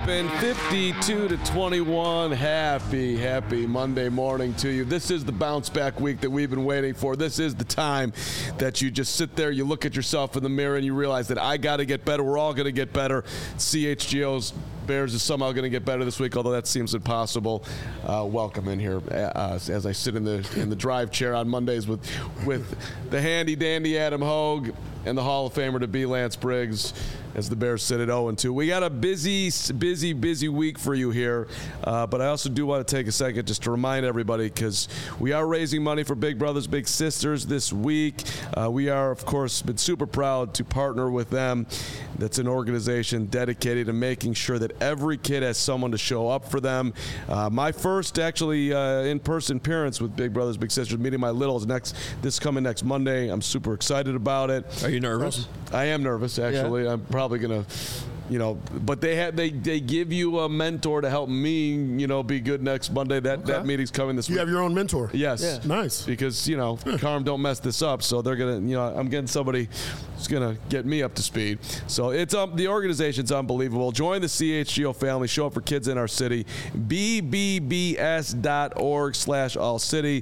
open, 52-21. Happy Monday morning to you. This is the bounce back week that we've been waiting for. This is the time that you just sit there, you look at yourself in the mirror, and you realize that I got to get better. We're all going to get better. CHGO's Bears is somehow going to get better this week, although that seems impossible. Welcome in here as I sit in the drive chair on Mondays with the handy dandy Adam Hogue and the Hall of Famer to be Lance Briggs as the Bears sit at 0-2. We got a busy week for you here, but I also do want to take a second just to remind everybody, because we are raising money for Big Brothers Big Sisters this week. We are, of course, been super proud to partner with them. That's an organization dedicated to making sure that every kid has someone to show up for them. My first, actually, in-person appearance with Big Brothers Big Sisters, meeting my littles, this coming next Monday. I'm super excited about it. Are you nervous? I am nervous, actually. Yeah. I'm probably going to, but they give you a mentor to help me, be good next Monday. That meeting's coming this week. You have your own mentor? Yes. Yeah. Nice. Because, Carm don't mess this up, so they're going to, I'm getting somebody who's going to get me up to speed. So it's the organization's unbelievable. Join the CHGO family. Show up for kids in our city. bbbs.org/all-city.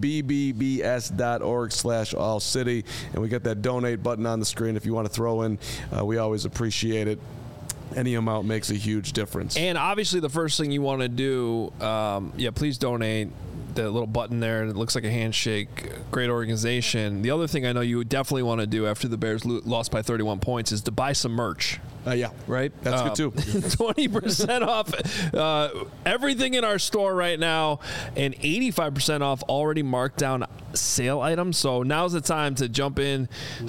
bbbs.org/all-city. And we got that donate button on the screen if you want to throw in. We always appreciate it. Any amount makes a huge difference. And obviously the first thing you want to do, please donate. The little button there, it looks like a handshake. Great organization. The other thing I know you would definitely want to do after the Bears lost by 31 points is to buy some merch. Yeah. Right? That's good, too. 20% off everything in our store right now, and 85% off already marked down sale items. So now's the time to jump in,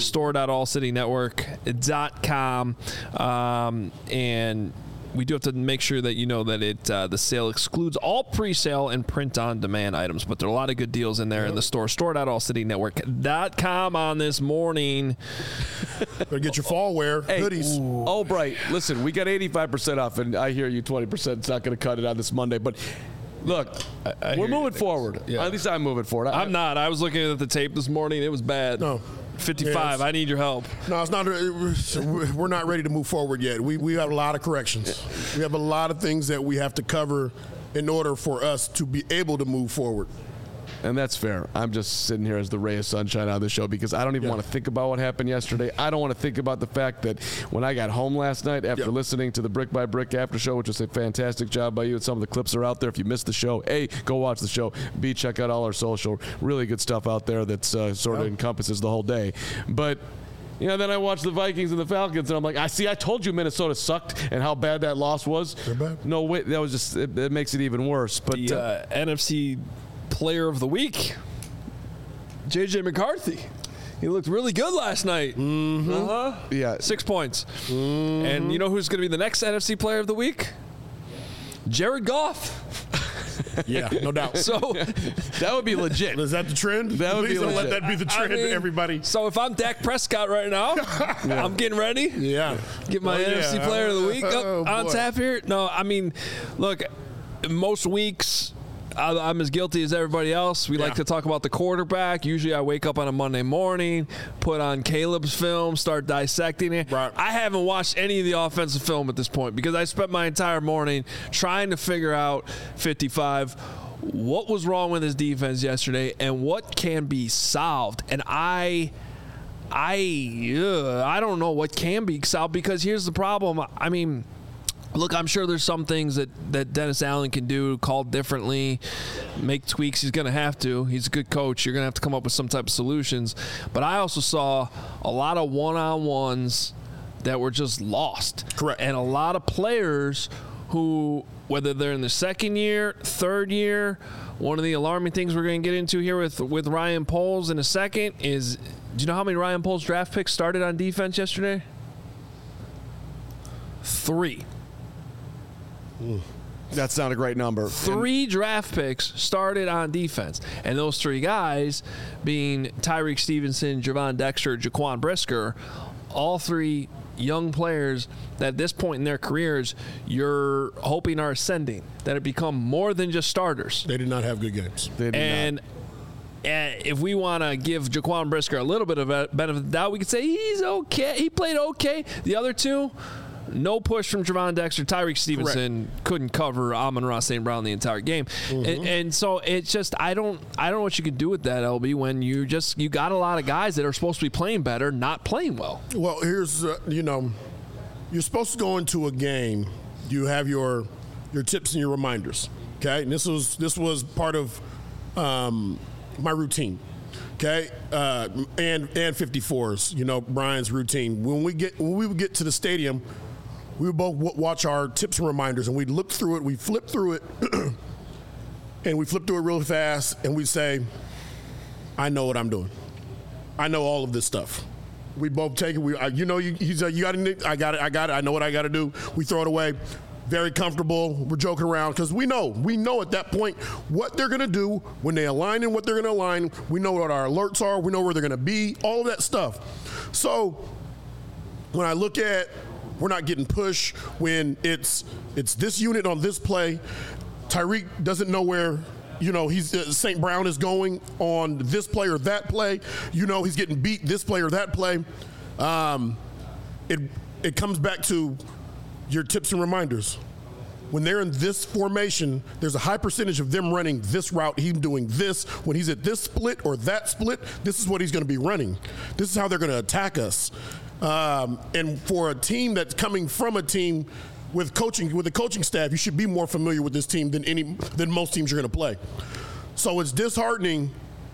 store.allcitynetwork.com, and we do have to make sure that you know that the sale excludes all pre-sale and print-on-demand items, but there are a lot of good deals in there in the store. Store.allcitynetwork.com on this morning. Better get your fall wear, hoodies. Oh, Bright, listen, we got 85% off, and I hear you 20%. It's not going to cut it on this Monday, but look, we're moving forward. Yeah. At least I'm moving forward. I'm not. I was looking at the tape this morning. It was bad. No. 55. Yes. I need your help. No, it's not. We're not ready to move forward yet. We have a lot of corrections. We have a lot of things that we have to cover in order for us to be able to move forward. And that's fair. I'm just sitting here as the ray of sunshine on the show because I don't even want to think about what happened yesterday. I don't want to think about the fact that when I got home last night after listening to the Brick by Brick after show, which was a fantastic job by you, and some of the clips are out there. If you missed the show, A, go watch the show. B, check out all our social. Really good stuff out there that's sort of encompasses the whole day. But then I watched the Vikings and the Falcons, and I'm like, I told you Minnesota sucked and how bad that loss was. They're bad. No, wait, that was just, it makes it even worse. But the NFC Player of the Week, J.J. McCarthy. He looked really good last night. Mm-hmm. Yeah. 6 points. Mm-hmm. And you know who's going to be the next NFC Player of the Week? Jared Goff. Yeah, no doubt. So that would be legit. Is that the trend? That would Please be don't legit. let that be the trend, everybody. So if I'm Dak Prescott right now, I'm getting ready. Yeah. Get my NFC Player of the Week up on tap here. No, I mean, look, most weeks I'm as guilty as everybody else. We like to talk about the quarterback. Usually I wake up on a Monday morning, put on Caleb's film, start dissecting it. Right. I haven't watched any of the offensive film at this point because I spent my entire morning trying to figure out 55, what was wrong with his defense yesterday and what can be solved. And I don't know what can be solved because here's the problem. I mean, look, I'm sure there's some things that Dennis Allen can do, call differently, make tweaks. He's going to have to. He's a good coach. You're going to have to come up with some type of solutions. But I also saw a lot of one-on-ones that were just lost. Correct. And a lot of players who, whether they're in the second year, third year, one of the alarming things we're going to get into here with Ryan Poles in a second is, do you know how many Ryan Poles draft picks started on defense yesterday? 3. That's not a great number. 3 draft picks started on defense. And those 3 guys being Tyreek Stevenson, Javon Dexter, Jaquan Brisker, all 3 young players that at this point in their careers you're hoping are ascending, that have become more than just starters. They did not have good games. They did not. If we want to give Jaquan Brisker a little bit of a benefit of the doubt, we could say he's okay. He played okay. The other 2, no push from Javon Dexter. Tyreek Stevenson couldn't cover Amon-Ra St. Brown the entire game. And so it's just I don't know what you can do with that, LB, when you got a lot of guys that are supposed to be playing better not playing well. Well, here's you're supposed to go into a game. You have your tips and your reminders. Okay, and this was part of my routine. Okay, and 54s. Brian's routine. When we would get to the stadium, we would both watch our tips and reminders, and we'd look through it. We'd flip through it, and we flip through it really fast, and we'd say, "I know what I'm doing. I know all of this stuff." We both take it. He's like, "You got it. I got it. I know what I got to do." We throw it away. Very comfortable. We're joking around because we know at that point what they're going to do when they align and what they're going to align. We know what our alerts are. We know where they're going to be, all of that stuff. So when I look at we're not getting pushed, when it's this unit on this play, Tyreek doesn't know where he's St. Brown is going on this play or that play. He's getting beat this play or that play. It comes back to your tips and reminders. When they're in this formation, there's a high percentage of them running this route, him doing this. When he's at this split or that split, this is what he's going to be running. This is how they're going to attack us. And for a team that's coming from a team with a coaching staff, you should be more familiar with this team than most teams you're going to play. So it's disheartening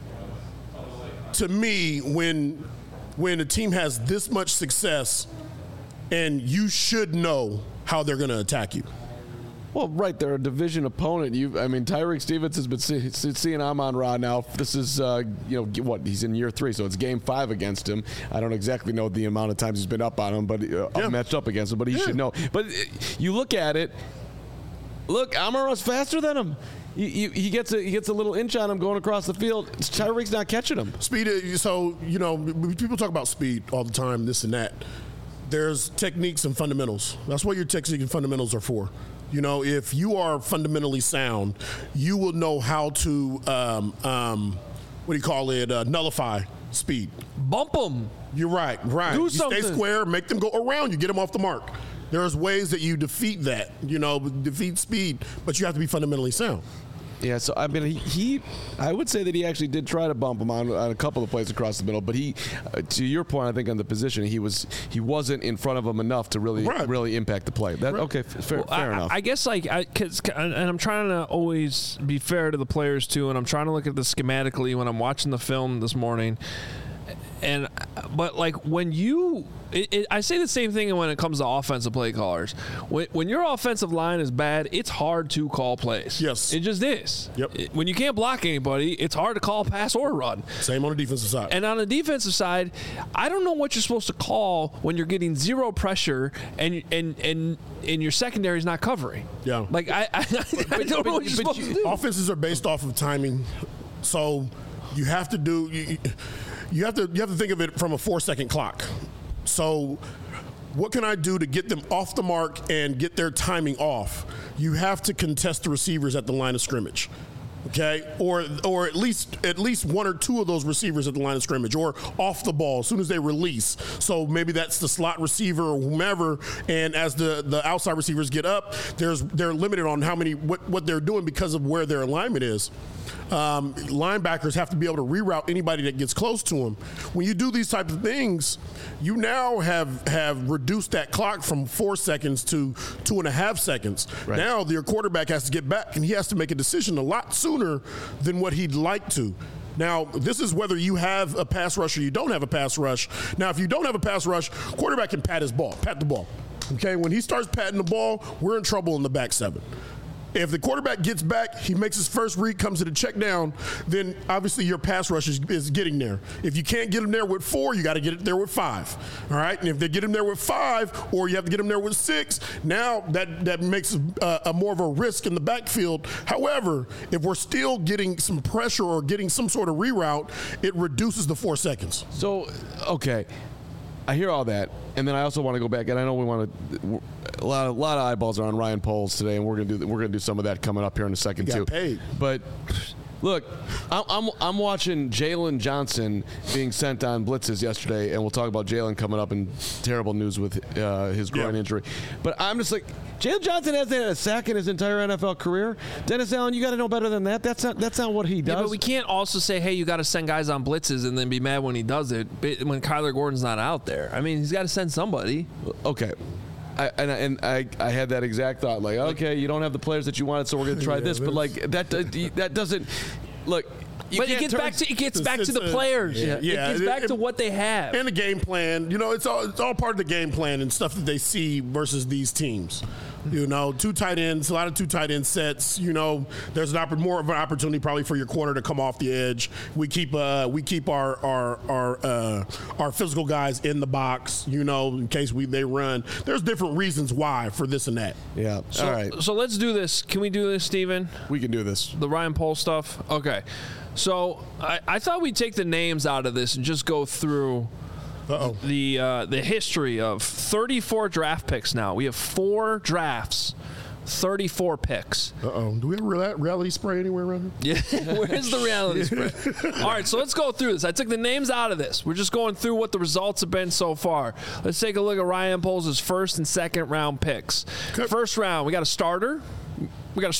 to me when a team has this much success and you should know how they're going to attack you. Well, right, they're a division opponent. Tyreek Stevens has been seeing Amon-Ra now. This is, he's in year 3, so it's game 5 against him. I don't exactly know the amount of times he's been up on him, but matched up against him, but he should know. But you look at it, Amon-Ra's faster than him. He gets a little inch on him going across the field. Tyreek's not catching him. Speed, so, people talk about speed all the time, this and that. There's techniques and fundamentals. That's what your techniques and fundamentals are for. If you are fundamentally sound, you will know how to, nullify speed. Bump them. You're right. Do you something. Stay square, make them go around you, get them off the mark. There's ways that you defeat that, defeat speed, but you have to be fundamentally sound. Yeah, so I would say that he actually did try to bump him on a couple of plays across the middle, but he, to your point, I think on the position, he wasn't in front of him enough to really impact the play. Okay, fair enough. I guess and I'm trying to always be fair to the players too, and I'm trying to look at this schematically when I'm watching the film this morning. But when I say the same thing when it comes to offensive play callers. When your offensive line is bad, it's hard to call plays. Yes. It just is. Yep. When you can't block anybody, it's hard to call pass or run. Same on the defensive side. And on the defensive side, I don't know what you're supposed to call when you're getting zero pressure and your secondary is not covering. Yeah. I don't know what you're supposed to do. Offenses are based off of timing, so you have to do. You have to think of it from a 4-second clock. So what can I do to get them off the mark and get their timing off? You have to contest the receivers at the line of scrimmage. Okay, or at least one or two of those receivers at the line of scrimmage, or off the ball as soon as they release. So maybe that's the slot receiver or whomever. And as the outside receivers get up, they're limited on what they're doing because of where their alignment is. Linebackers have to be able to reroute anybody that gets close to them. When you do these types of things, you now have reduced that clock from 4 seconds to 2.5 seconds. Right. Now your quarterback has to get back and he has to make a decision a lot sooner than what he'd like to. Now, this is whether you have a pass rush or you don't have a pass rush. Now, if you don't have a pass rush, quarterback can pat the ball. Okay, when he starts patting the ball, we're in trouble in the back 7. If the quarterback gets back, he makes his first read, comes to the check down, then obviously your pass rush is getting there. If you can't get him there with 4, you got to get it there with 5. All right? And if they get him there with 5, or you have to get him there with 6, now that makes a more of a risk in the backfield. However, if we're still getting some pressure or getting some sort of reroute, it reduces the 4 seconds. So, okay. I hear all that, and then I also want to go back, and I know we want to. A lot of eyeballs are on Ryan Poles today, and we're gonna do some of that coming up here in a second too. Paid. But Look, I'm watching Jalen Johnson being sent on blitzes yesterday, and we'll talk about Jalen coming up in terrible news with his groin injury. But I'm just like, Jalen Johnson hasn't had a sack in his entire NFL career. Dennis Allen, you got to know better than that. That's not what he does. Yeah, but we can't also say, hey, you got to send guys on blitzes and then be mad when he does it when Kyler Gordon's not out there. I mean, he's got to send somebody. Okay. I had that exact thought, like, okay, you don't have the players that you wanted, so we're going to try this. But like that doesn't look. But it gets back to the players. Yeah. It gets back to what they have and the game plan. You know, it's all part of the game plan and stuff that they see versus these teams. You know, 2 tight ends, a lot of 2 tight end sets. You know, there's more of an opportunity probably for your corner to come off the edge. We keep our physical guys in the box. You know, in case they run. There's different reasons why for this and that. Yeah. All right. So let's do this. Can we do this, Steven? We can do this. The Ryan Poles stuff. Okay. So I thought we'd take the names out of this and just go through the history of 34 draft picks now. We have 4 drafts, 34 picks. Do we have reality spray anywhere around here? Yeah. Where's the reality spray? All right, so let's go through this. I took the names out of this. We're just going through what the results have been so far. Let's take a look at Ryan Poles' first and second round picks. Okay. First round, we got a starter. And we got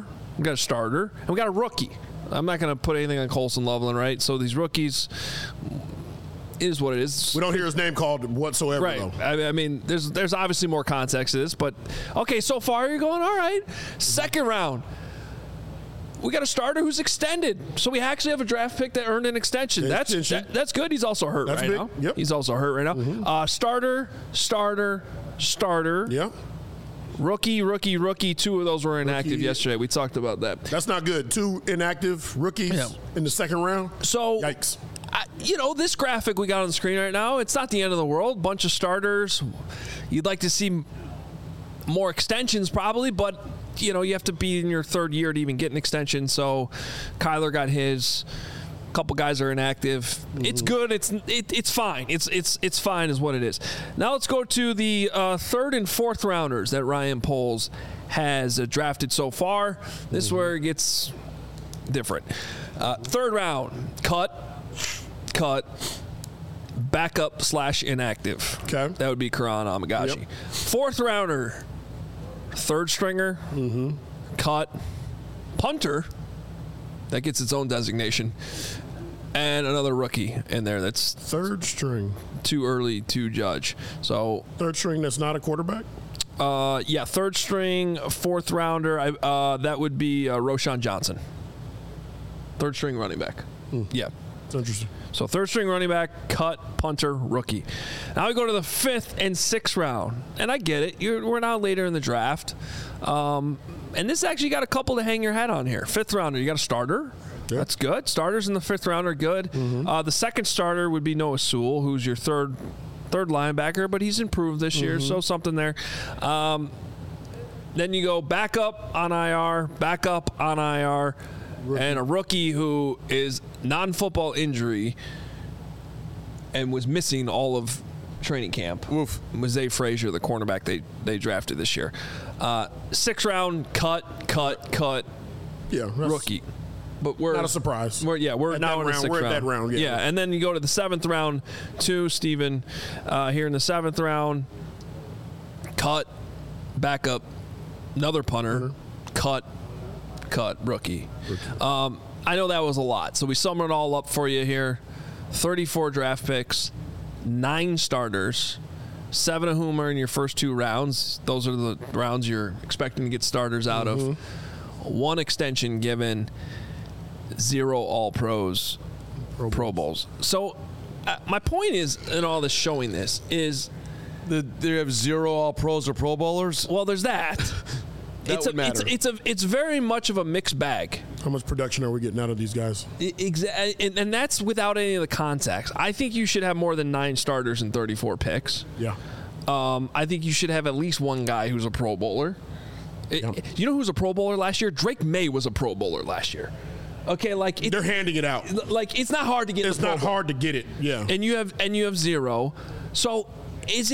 a rookie. I'm not going to put anything on Colson Loveland, right? So these rookies, it is what it is. We don't hear his name called whatsoever, right. though. I mean, there's obviously more context to this, but okay, so far you're going all right. Second round, we got a starter who's extended. So we actually have a draft pick that earned an extension. That's good. He's also hurt now. Yep. He's also hurt right now. Mm-hmm. Starter. Yeah. Rookie. 2 of those were inactive yesterday. We talked about that. That's not good. 2 inactive rookies in the second round. So, yikes. This graphic we got on the screen right now, it's not the end of the world. Bunch of starters. You'd like to see more extensions probably, but, you have to be in your 3rd year to even get an extension. So Kyler got his. Couple guys are inactive. Mm-hmm. It's good. It's fine. It's fine is what it is. Now let's go to the 3rd and 4th rounders that Ryan Poles has drafted so far. This is where it gets different. 3rd round, cut, backup / inactive. Okay. That would be Karan Amagashi. Yep. 4th rounder, 3rd stringer, cut, punter. That gets its own designation. And another rookie in there that's 3rd string. Too early to judge. So 3rd string that's not a quarterback? 3rd string, 4th rounder. That would be Roschon Johnson. 3rd string running back. Yeah. That's interesting. So 3rd string running back, cut, punter, rookie. Now we go to the 5th and 6th round. And I get it. We're now later in the draft. And this actually got a couple to hang your hat on here. 5th rounder, you got a starter. Yep. That's good. Starters in the 5th round are good. Mm-hmm. The 2nd starter would be Noah Sewell, who's your third linebacker, but he's improved this year, so something there. Then you go backup on IR, rookie. And a rookie who is non-football injury and was missing all of training camp. Oof. Was Zay Frazier, the cornerback they drafted this year. 6th round, cut. Yeah, rookie. But we're not a surprise. We're now in the 6th round. We're at that round. Yeah, and then you go to the 7th round to Steven. Here in the 7th round, cut, backup, another punter, cut, rookie. I know that was a lot, so we summed it all up for you here. 34 draft picks, 9 starters, 7 of whom are in your first 2 rounds. Those are the rounds you're expecting to get starters out of. 1 extension given, 0 all-pros, Pro Bowls. So my point is, in all this showing this, is they have 0 all-pros or Pro Bowlers? Well, there's that. It's very much of a mixed bag. How much production are we getting out of these guys? Exactly, and that's without any of the context. I think you should have more than 9 starters and 34 picks. Yeah. I think you should have at least 1 guy who's a Pro Bowler. You know who was a Pro Bowler last year? Drake May was a Pro Bowler last year. Okay, they're handing it out. Like it's not hard to get. It's not hard to get it. Yeah. And you have 0. So is it?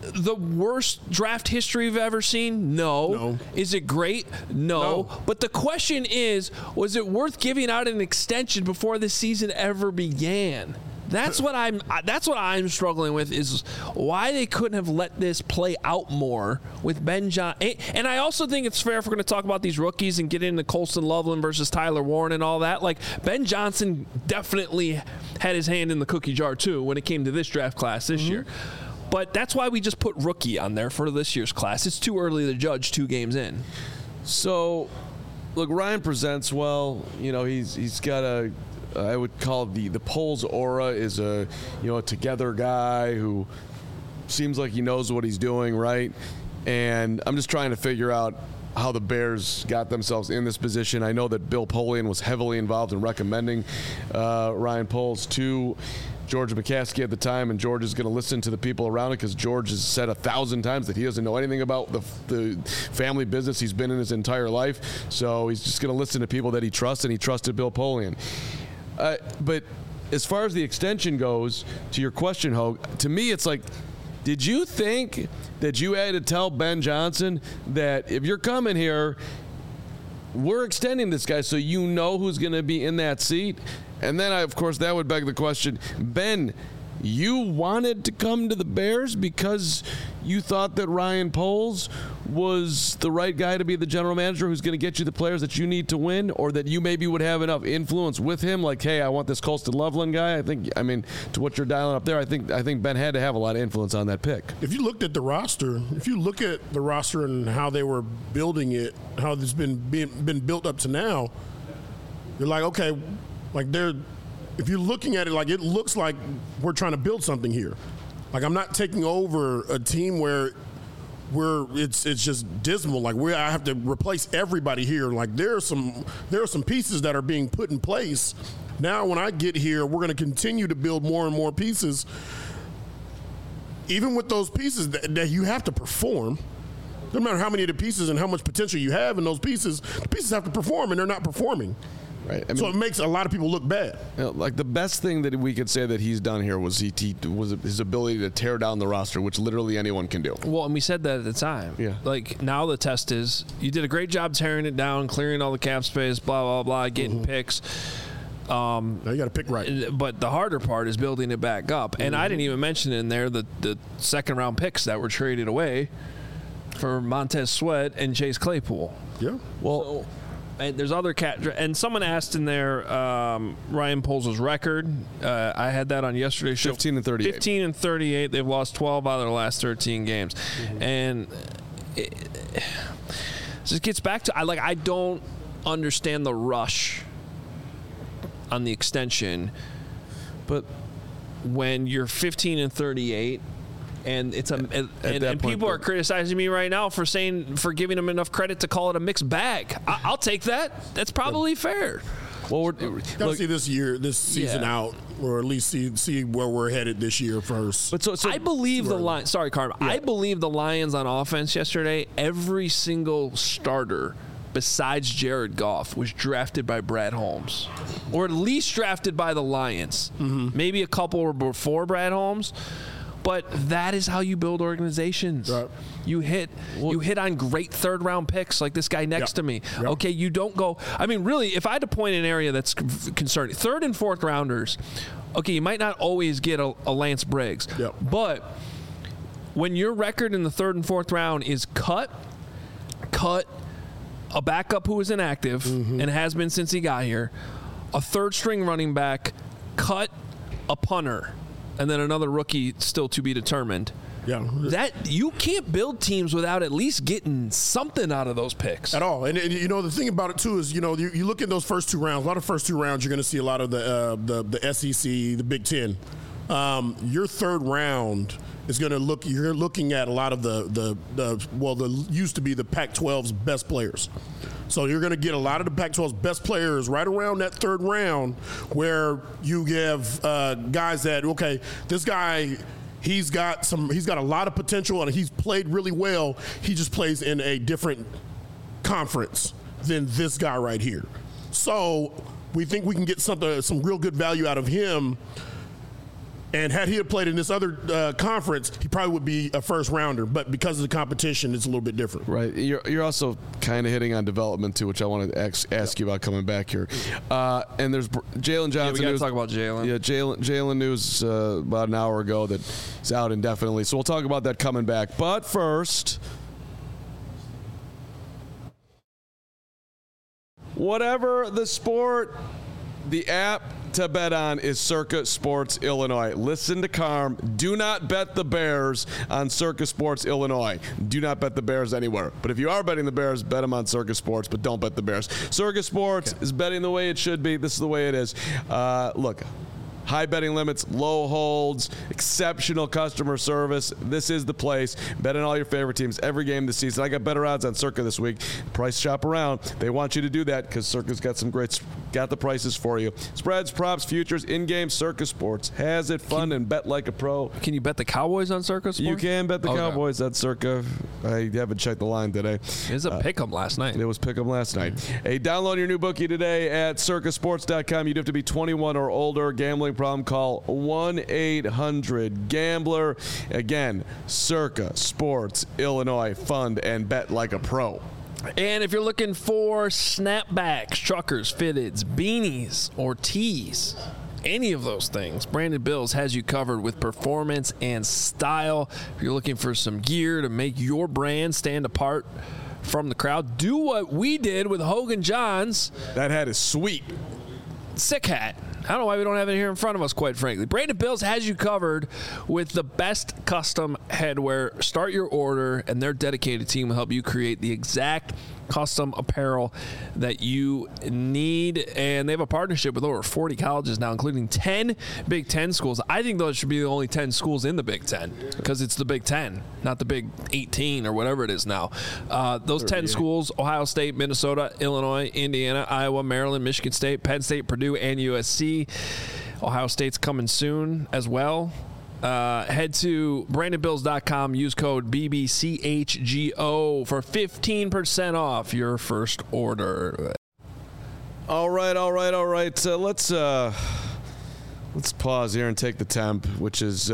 the worst draft history we've ever seen? No. Is it great? No. But the question is, was it worth giving out an extension before the season ever began? That's what I'm struggling with, is why they couldn't have let this play out more with Ben Johnson. And I also think it's fair if we're going to talk about these rookies and get into Colston Loveland versus Tyler Warren and all that. Like, Ben Johnson definitely had his hand in the cookie jar too when it came to this draft class this year. But that's why we just put rookie on there for this year's class. It's too early to judge 2 games in. So, look, Ryan presents well. You know, he's got a, I would call the Poles aura is a together guy who seems like he knows what he's doing, right? And I'm just trying to figure out how the Bears got themselves in this position. I know that Bill Polian was heavily involved in recommending Ryan Poles to George McCaskey at the time, and George is going to listen to the people around it because George has said 1,000 times that he doesn't know anything about the family business he's been in his entire life. So he's just going to listen to people that he trusts, and he trusted Bill Polian. But as far as the extension goes, to your question, Hogue, to me it's like, did you think that you had to tell Ben Johnson that if you're coming here, we're extending this guy so you know who's going to be in that seat? And then, of course, that would beg the question, Ben, you wanted to come to the Bears because you thought that Ryan Poles was the right guy to be the general manager who's going to get you the players that you need to win, or that you maybe would have enough influence with him, like, hey, I want this Colston Loveland guy? To what you're dialing up there, I think Ben had to have a lot of influence on that pick. If you looked at the roster, and how they were building it, how it's been built up to now, you're like, okay, like if you're looking at it, like, it looks like we're trying to build something here. Like, I'm not taking over a team where it's just dismal. Like, I have to replace everybody here. Like, there are some pieces that are being put in place. Now, when I get here, we're going to continue to build more and more pieces. Even with those pieces that you have to perform, no matter how many of the pieces and how much potential you have in those pieces, the pieces have to perform, and they're not performing. Right. So it makes a lot of people look bad. Like, the best thing that we could say that he's done here was was his ability to tear down the roster, which literally anyone can do. Well, and we said that at the time. Yeah. Like, now the test is, you did a great job tearing it down, clearing all the cap space, blah, blah, blah, getting picks. Now you got to pick right. But the harder part is building it back up. And I didn't even mention in there the second-round picks that were traded away for Montez Sweat and Chase Claypool. Yeah. Well, and there's other and someone asked in there Ryan Poles' record. I had that on yesterday's show. 15-38. 15-38. They've lost 12 out of their last 13 games, and it just gets back to I don't understand the rush on the extension, but when you're 15-38. And it's and people are criticizing me right now for giving them enough credit to call it a mixed bag. I'll take that. That's probably fair. Well, we're gotta see this season out, or at least see where we're headed this year first. But so I believe the Lions. Sorry, Carm. Yeah. I believe the Lions on offense yesterday. Every single starter besides Jared Goff was drafted by Brad Holmes, or at least drafted by the Lions. Maybe a couple were before Brad Holmes. But that is how you build organizations. Right. You hit on great third-round picks like this guy next to me. Yep. Okay, you don't go – I mean, really, if I had to point an area that's concerning, third and fourth rounders, okay, you might not always get a Lance Briggs. Yep. But when your record in the third and fourth round is cut, a backup who is inactive and has been since he got here, a third-string running back, cut a punter, and then another rookie still to be determined. Yeah, that you can't build teams without at least getting something out of those picks at all. And you know, the thing about it too is, you know, you look at those first 2 rounds. A lot of first 2 rounds, you're going to see a lot of the SEC, the Big Ten. Your third round is going to look. You're looking at a lot of the used to be the Pac-12's best players. So you're going to get a lot of the Pac-12's best players right around that third round, where you have guys that, okay, this guy, he's got a lot of potential and he's played really well. He just plays in a different conference than this guy right here. So we think we can get some real good value out of him And had he played in this other conference, he probably would be a first rounder. But because of the competition, it's a little bit different. Right. You're also kind of hitting on development, too, which I wanted to ask you about coming back here. And there's Jalen Johnson. Yeah, we got to talk about Jalen. Yeah, Jalen news about an hour ago that he's out indefinitely. So we'll talk about that coming back. But first, whatever the sport, the app to bet on is Circa Sports Illinois. Listen to Carm. Do not bet the Bears on Circa Sports Illinois. Do not bet the Bears anywhere. But if you are betting the Bears, bet them on Circa Sports, but don't bet the Bears. Circa Sports is betting the way it should be. This is the way it is. Look. High betting limits, low holds, exceptional customer service. This is the place. Bet on all your favorite teams every game this season. I got better odds on Circa this week. Price shop around. They want you to do that because Circa's got the prices for you. Spreads, props, futures, in-game. Circa Sports has it fun and bet like a pro. Can you bet the Cowboys on Circa Sports? You can bet the Cowboys at Circa. I haven't checked the line today. It was a pick'em last night. It was pick'em last night. Hey, download your new bookie today at circasports.com. You do have to be 21 or older. Gambling problem, call 1-800-GAMBLER. Again, Circa Sports Illinois. Fund and bet like a pro. And if you're looking for snapbacks, truckers, fitteds, beanies, or tees, any of those things, Brandon Bills has you covered with performance and style. If you're looking for some gear to make your brand stand apart from the crowd, do what we did with Hogan Johns. That hat is sweet. Sick hat. I don't know why we don't have it here in front of us, quite frankly. Brandon Bills has you covered with the best custom headwear. Start your order, and their dedicated team will help you create the exact custom apparel that you need. And they have a partnership with over 40 colleges now, including 10 Big Ten schools. I think those should be the only 10 schools in the Big Ten because it's the Big Ten, not the Big 18 or whatever it is now. Those 10 schools: Ohio State, Minnesota, Illinois, Indiana, Iowa, Maryland, Michigan State, Penn State, Purdue, and USC. Ohio State's coming soon as well. Head to BrandonBills.com. Use code BBCHGO for 15% off your first order. All right. Let's pause here and take the temp, which is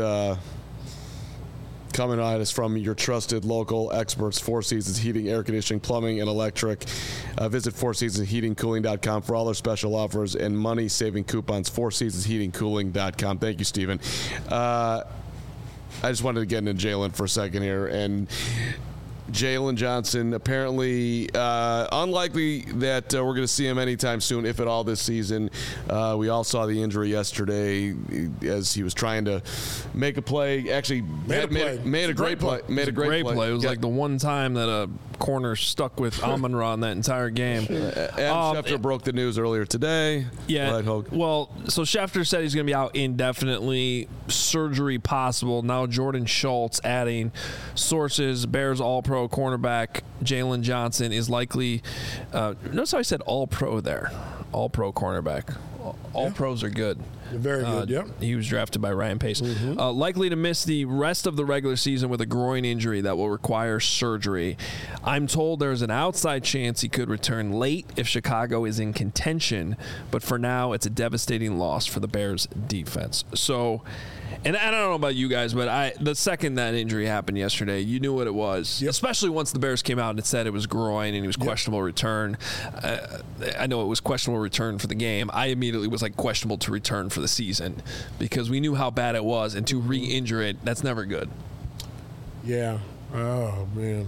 coming at us from your trusted local experts, Four Seasons Heating, Air Conditioning, Plumbing, and Electric. Visit FourSeasonsHeatingCooling.com for all their special offers and money-saving coupons. FourSeasonsHeatingCooling.com. Thank you, Stephen. I just wanted to get into Jalen for a second here. And Jalen Johnson, apparently unlikely that we're going to see him anytime soon, if at all, this season. We all saw the injury yesterday as he was trying to make a play. Actually, made a great play. Made a great play. It was like the one time that a corner stuck with Amon-Ra in that entire game. Adam Schefter broke the news earlier today. Yeah. Well, so Schefter said he's going to be out indefinitely. Surgery possible. Now Jordan Schultz adding sources. Bears All-Pro cornerback Jalen Johnson is likely. Notice how I said All-Pro there. All-Pro cornerback. All pros are good. Very good, yeah. He was drafted by Ryan Pace. Likely to miss the rest of the regular season with a groin injury that will require surgery. I'm told there's an outside chance he could return late if Chicago is in contention, but for now, it's a devastating loss for the Bears' defense. So, and I don't know about you guys, but the second that injury happened yesterday, you knew what it was, especially once the Bears came out and it said it was groin and he was questionable return. I know it was questionable return for the game. I immediately was like questionable to return for the season because we knew how bad it was, and to re-injure it, that's never good. Yeah. Oh, man.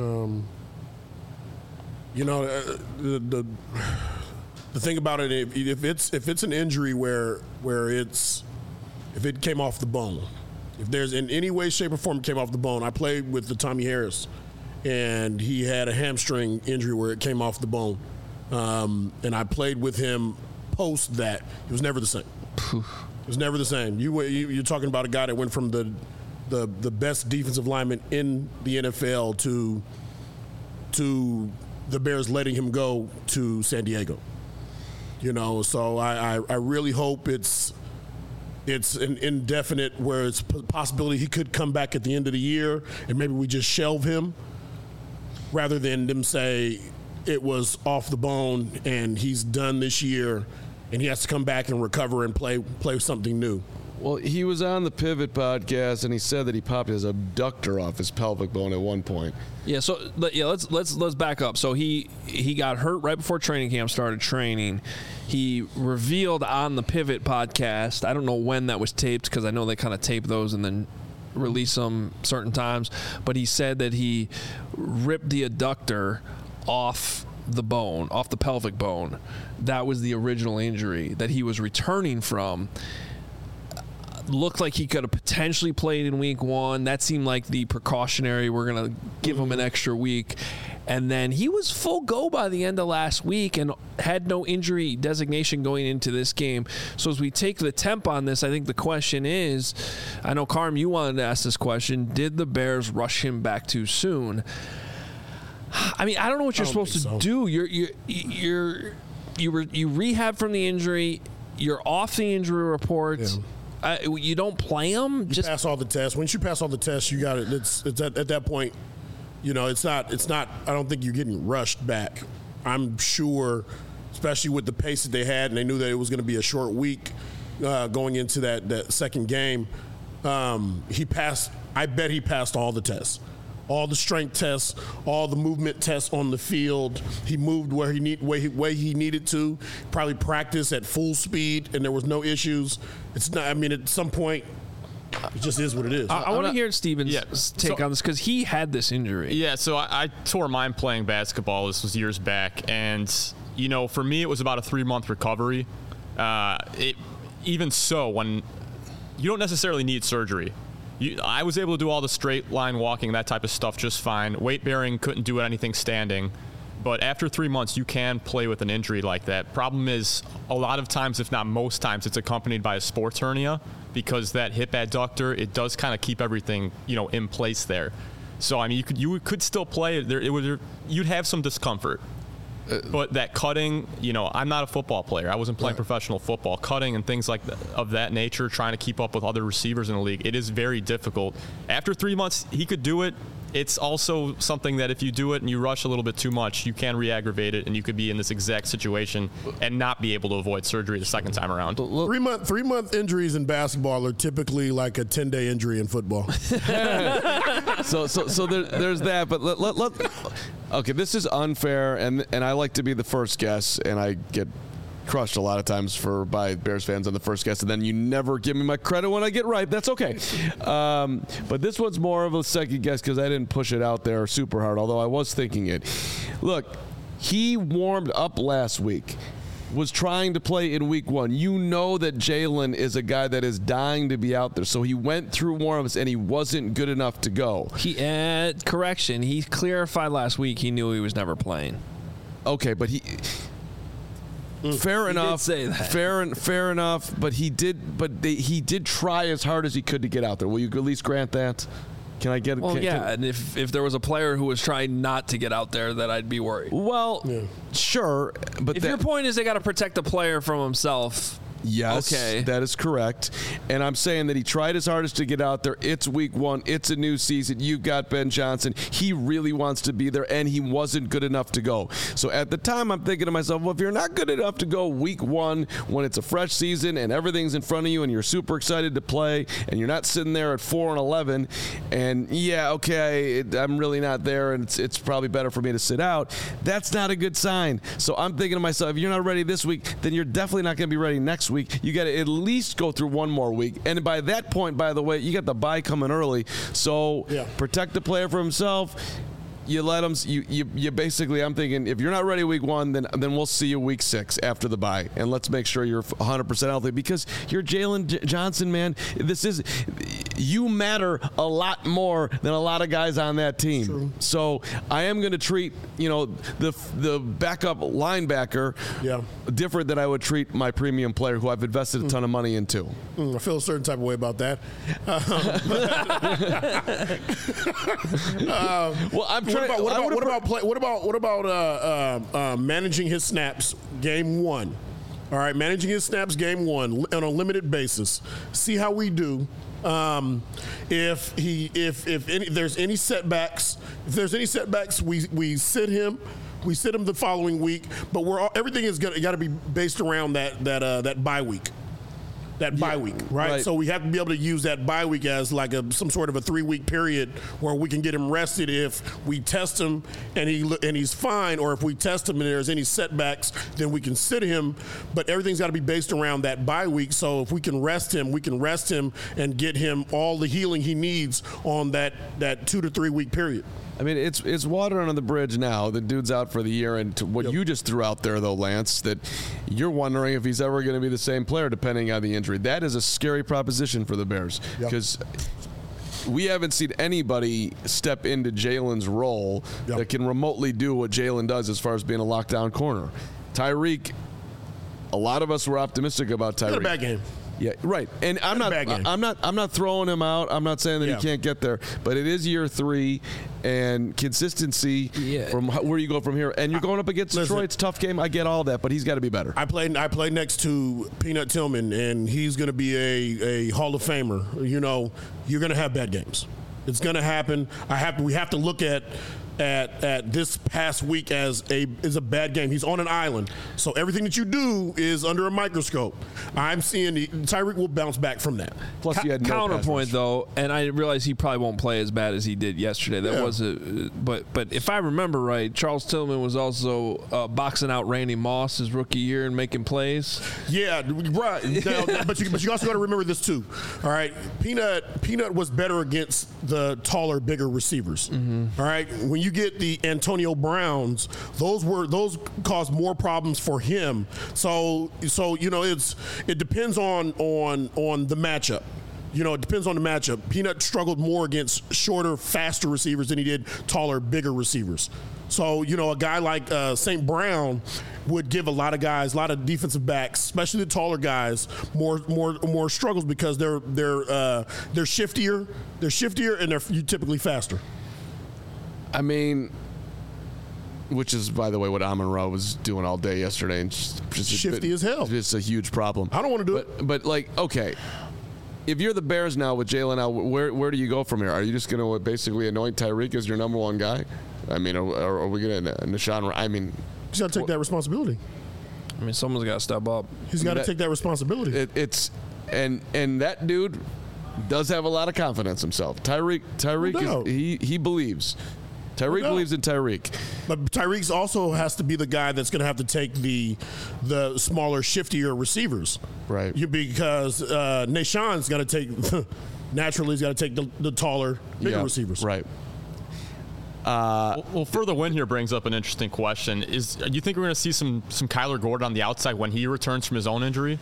The thing about it, if it's an injury where if it came off the bone, if there's in any way, shape, or form it came off the bone. I played with the Tommy Harris, and he had a hamstring injury where it came off the bone. And I played with him post that. It was never the same. It was never the same. You're talking about a guy that went from the best defensive lineman in the NFL to the Bears letting him go to San Diego. So I really hope it's an indefinite where it's a possibility he could come back at the end of the year and maybe we just shelve him rather than them say it was off the bone and he's done this year and he has to come back and recover and play something new. Well, he was on the Pivot podcast, and he said that he popped his abductor off his pelvic bone at one point. Yeah, so let's back up. So he got hurt right before training camp started training. He revealed on the Pivot podcast, I don't know when that was taped because I know they kind of tape those and then release them certain times, but he said that he ripped the adductor off the bone, off the pelvic bone. That was the original injury that he was returning from. Looked like he could have potentially played in week 1. That seemed like the precautionary, we're going to give him an extra week. And then he was full go by the end of last week and had no injury designation going into this game. So as we take the temp on this, I think the question is, I know, Carm, you wanted to ask this question, did the Bears rush him back too soon? I mean, I don't know what you're supposed to do. You rehab from the injury. You're off the injury report. Yeah. You don't play him. You pass all the tests. Once you pass all the tests, you got it. It's at that point. You know, it's not. I don't think you're getting rushed back. I'm sure, especially with the pace that they had, and they knew that it was going to be a short week going into that second game. He passed. I bet he passed all the tests. All the strength tests, all the movement tests on the field. He moved where he needed to. Probably practiced at full speed, and there was no issues. It's not. I mean, at some point, it just is what it is. I want to hear Steven's take on this because he had this injury. Yeah, so I tore mine playing basketball. This was years back, and for me, it was about a 3-month recovery. Even so, when you don't necessarily need surgery. I was able to do all the straight line walking, that type of stuff just fine. Weight bearing, couldn't do anything standing. But after 3 months, you can play with an injury like that. Problem is, a lot of times, if not most times, it's accompanied by a sports hernia because that hip adductor, it does kind of keep everything, in place there. So, I mean, you could still play. You'd have some discomfort. But that cutting, I'm not a football player. I wasn't playing professional football. Cutting and things of that nature, trying to keep up with other receivers in the league, it is very difficult. After 3 months, he could do it. It's also something that if you do it and you rush a little bit too much, you can re-aggravate it, and you could be in this exact situation and not be able to avoid surgery the second time around. 3-month injuries in basketball are typically like a 10-day injury in football. So there's that. But okay, this is unfair, and I like to be the first guess, and I get crushed a lot of times by Bears fans on the first guess, and then you never give me my credit when I get right. That's okay. But this one's more of a second guess because I didn't push it out there super hard, although I was thinking it. Look, he warmed up last week, was trying to play in week 1. You know that Jalen is a guy that is dying to be out there, so he went through warm-ups and he wasn't good enough to go. Correction, he clarified last week he knew he was never playing. Okay, but fair enough. Did say that. Fair enough. But he did try as hard as he could to get out there. Will you at least grant that? Can I get? Well, and if there was a player who was trying not to get out there, then I'd be worried. Well, sure, but if your point is they got to protect the player from himself. Yes, okay. That is correct. And I'm saying that he tried his hardest to get out there. It's week 1. It's a new season. You've got Ben Johnson. He really wants to be there, and he wasn't good enough to go. So at the time, I'm thinking to myself, well, if you're not good enough to go week 1 when it's a fresh season and everything's in front of you and you're super excited to play and you're not sitting there at 4-11 and, I'm really not there and it's probably better for me to sit out, that's not a good sign. So I'm thinking to myself, if you're not ready this week, then you're definitely not going to be ready next week. You got to at least go through one more week. And by that point, by the way, you got the bye coming early. So protect the player from himself. You let him. You basically. I'm thinking if you're not ready week 1, then we'll see you week 6 after the bye, and let's make sure you're 100% healthy because you're Jalen Johnson, man. You matter a lot more than a lot of guys on that team. True. So I am going to treat the backup linebacker different than I would treat my premium player who I've invested a ton of money into. I feel a certain type of way about that. Well, I'm. What about managing his snaps game 1? All right, managing his snaps game 1 on a limited basis. See how we do. If there's any setbacks, we sit him. We sit him the following week. But everything is got to be based around that bye week. that bye week, right? So we have to be able to use that bye week as like some sort of a 3-week period where we can get him rested if we test him and he's fine, or if we test him and there's any setbacks, then we can sit him. But everything's got to be based around that bye week. So if we can rest him and get him all the healing he needs on that 2 to 3 week period. I mean, it's water under the bridge now. The dude's out for the year, and what you just threw out there, though, Lance, that you're wondering if he's ever going to be the same player depending on the injury. That is a scary proposition for the Bears because we haven't seen anybody step into Jalen's role that can remotely do what Jalen does as far as being a lockdown corner. Tyreek, a lot of us were optimistic about Tyreek. Not a bad game. Yeah, right. And I'm not throwing him out. I'm not saying that he can't get there, but it is year 3 and consistency from where you go from here. And you're going up against Detroit. It's a tough game. I get all that, but he's got to be better. I play next to Peanut Tillman, and he's going to be a Hall of Famer. You know, you're going to have bad games. It's going to happen. We have to look at this past week as a bad game. He's on an island, so everything that you do is under a microscope. I'm seeing Tyreek will bounce back from that. Plus, he had no counterpoint though, and I realize he probably won't play as bad as he did yesterday. That was but if I remember right, Charles Tillman was also boxing out Randy Moss his rookie year and making plays. Yeah, right. Now, but you also got to remember this too. All right, Peanut was better against the taller, bigger receivers. All right, when you get the Antonio Browns, those caused more problems for him. So you know it depends on the matchup. You know, it depends on the matchup. Peanut struggled more against shorter, faster receivers than he did taller, bigger receivers. So, you know, a guy like St. Brown would give a lot of defensive backs, especially the taller guys, more struggles because they're shiftier, and they're typically faster. I mean, which is, by the way, what Amon-Ra was doing all day yesterday. And just shifty as hell. It's a huge problem. I don't want to do it. But, like, okay, if you're the Bears now with Jalen out, where do you go from here? Are you just going to basically anoint Tyreek as your number one guy? I mean, are we going to Nashawn? I mean, he's got to take that responsibility. I mean, someone's got to step up. He's got to take that responsibility. And that dude does have a lot of confidence himself. Tyreek he believes. Tyreek believes in Tyreek. But Tyreek also has to be the guy that's going to have to take the smaller, shiftier receivers. Right. Because Nashawn's got to take – naturally he's got to take the taller, bigger receivers. Right. Well, further win here brings up an interesting question. Do you think we're going to see some Kyler Gordon on the outside when he returns from his own injury?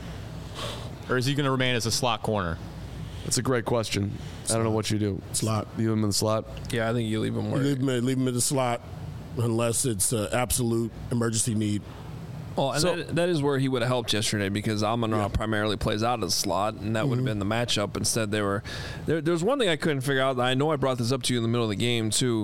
Or is he going to remain as a slot corner? That's a great question. I don't know what you do. Slot. Leave him in the slot? Yeah, I think you leave him where. Leave him in the slot unless it's an absolute emergency need. Well, and that is where he would have helped yesterday because Amon-Ra primarily plays out of the slot, and that would have been the matchup. Instead, there's one thing I couldn't figure out. I know I brought this up to you in the middle of the game, too,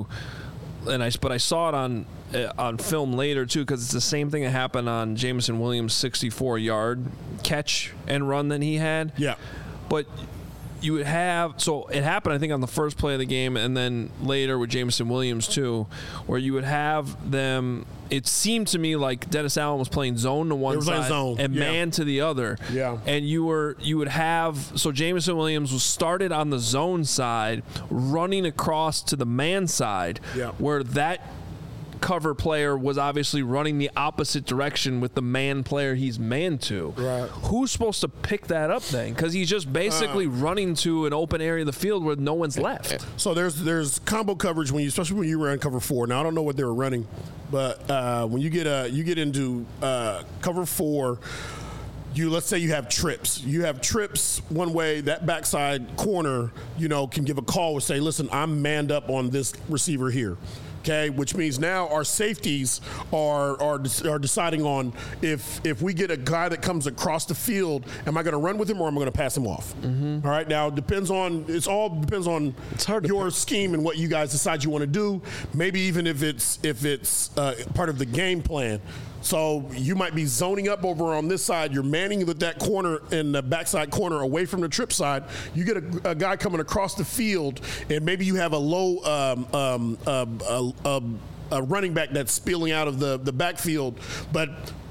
but I saw it on film later, too, because it's the same thing that happened on Jameson Williams' 64-yard catch and run that he had. Yeah. But you would have – so it happened, I think, on the first play of the game and then later with Jameson Williams, too, where you would have them – it seemed to me like Dennis Allen was playing zone to one side and man to the other. Yeah. And you would have – so Jameson Williams was started on the zone side running across to the man side where that – cover player was obviously running the opposite direction with the man player he's man to. Right. Who's supposed to pick that up then? Because he's just basically running to an open area of the field where no one's left. So there's combo coverage especially when you run cover 4. Now I don't know what they were running, but when you get into cover 4. Let's say you have trips. You have trips one way. That backside corner, can give a call and say, "Listen, I'm manned up on this receiver here." Okay, which means now our safeties are deciding on if we get a guy that comes across the field, am I going to run with him or am I going to pass him off? Mm-hmm. All right, now it all depends on your scheme and what you guys decide you want to do. Maybe even if it's part of the game plan. So you might be zoning up over on this side. You're manning with that corner in the backside corner away from the trip side. You get a guy coming across the field, and maybe you have a low a running back that's spilling out of the backfield, but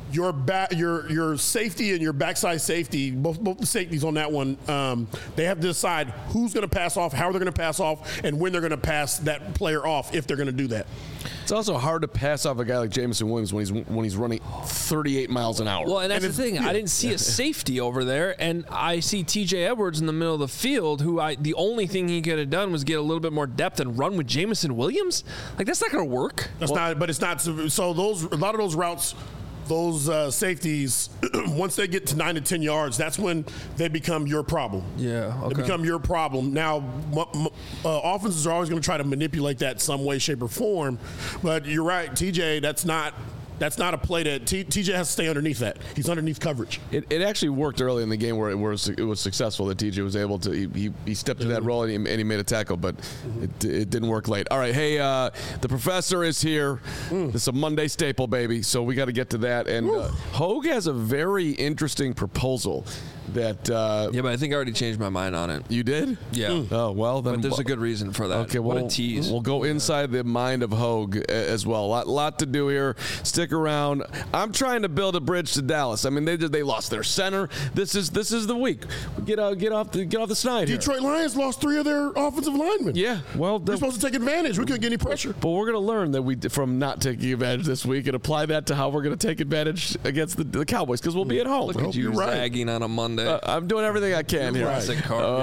your safety and your backside safety, both the safeties on that one, they have to decide who's going to pass off, how they're going to pass off, and when they're going to pass that player off if they're going to do that. It's also hard to pass off a guy like Jameson Williams when he's running 38 miles an hour. Well, and that's the thing. I didn't see a safety over there, and I see T.J. Edwards in the middle of the field, who the only thing he could have done was get a little bit more depth and run with Jameson Williams. Like, that's not going to work. That's not. But it's not. So a lot of those routes, those safeties, once they get to 9 to 10 yards, that's when they become your problem. Yeah, okay. They become your problem. Now, offenses are always going to try to manipulate that some way, shape, or form. But you're right, TJ. That's not a play that TJ has to stay underneath that. He's underneath coverage. It actually worked early in the game where it was successful that TJ was able to he stepped to that role and he made a tackle, but it didn't work late. All right, hey, the professor is here. This is a Monday staple, baby, so we got to get to that. And Hogue has a very interesting proposal that yeah, but I think I already changed my mind on it. You did? Yeah. Oh, well, then. But there's a good reason for that. Okay, what a tease. We'll go inside the mind of Hogue as well. Lot to do here. Stick around. I'm trying to build a bridge to Dallas. I mean, they lost their center. This is the week. Get off the snide here. Detroit Lions lost 3 of their offensive linemen. Yeah, well, they're supposed to take advantage. We couldn't get any pressure. But we're going to learn that from not taking advantage this week and apply that to how we're going to take advantage against the Cowboys, because we'll be at home. Look at you zagging on a Monday. I'm doing everything I can here. Classic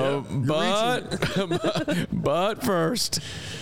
But first.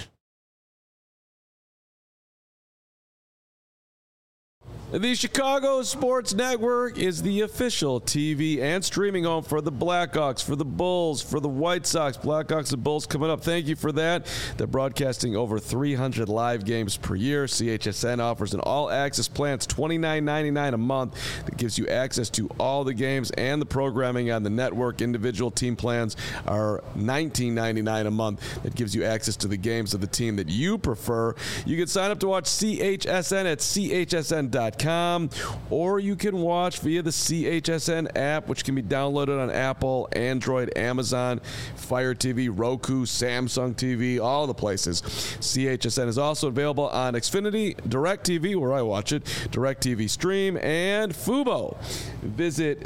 The Chicago Sports Network is the official TV and streaming home for the Blackhawks, for the Bulls, for the White Sox. Blackhawks and Bulls coming up. Thank you for that. They're broadcasting over 300 live games per year. CHSN offers an all-access plan. It's $29.99 a month. That gives you access to all the games and the programming on the network. Individual team plans are $19.99 a month. That gives you access to the games of the team that you prefer. You can sign up to watch CHSN at chsn.com. Or you can watch via the CHSN app, which can be downloaded on Apple, Android, Amazon, Fire TV, Roku, Samsung TV, all the places. CHSN is also available on Xfinity, DirecTV, where I watch it, DirecTV Stream, and Fubo. Visit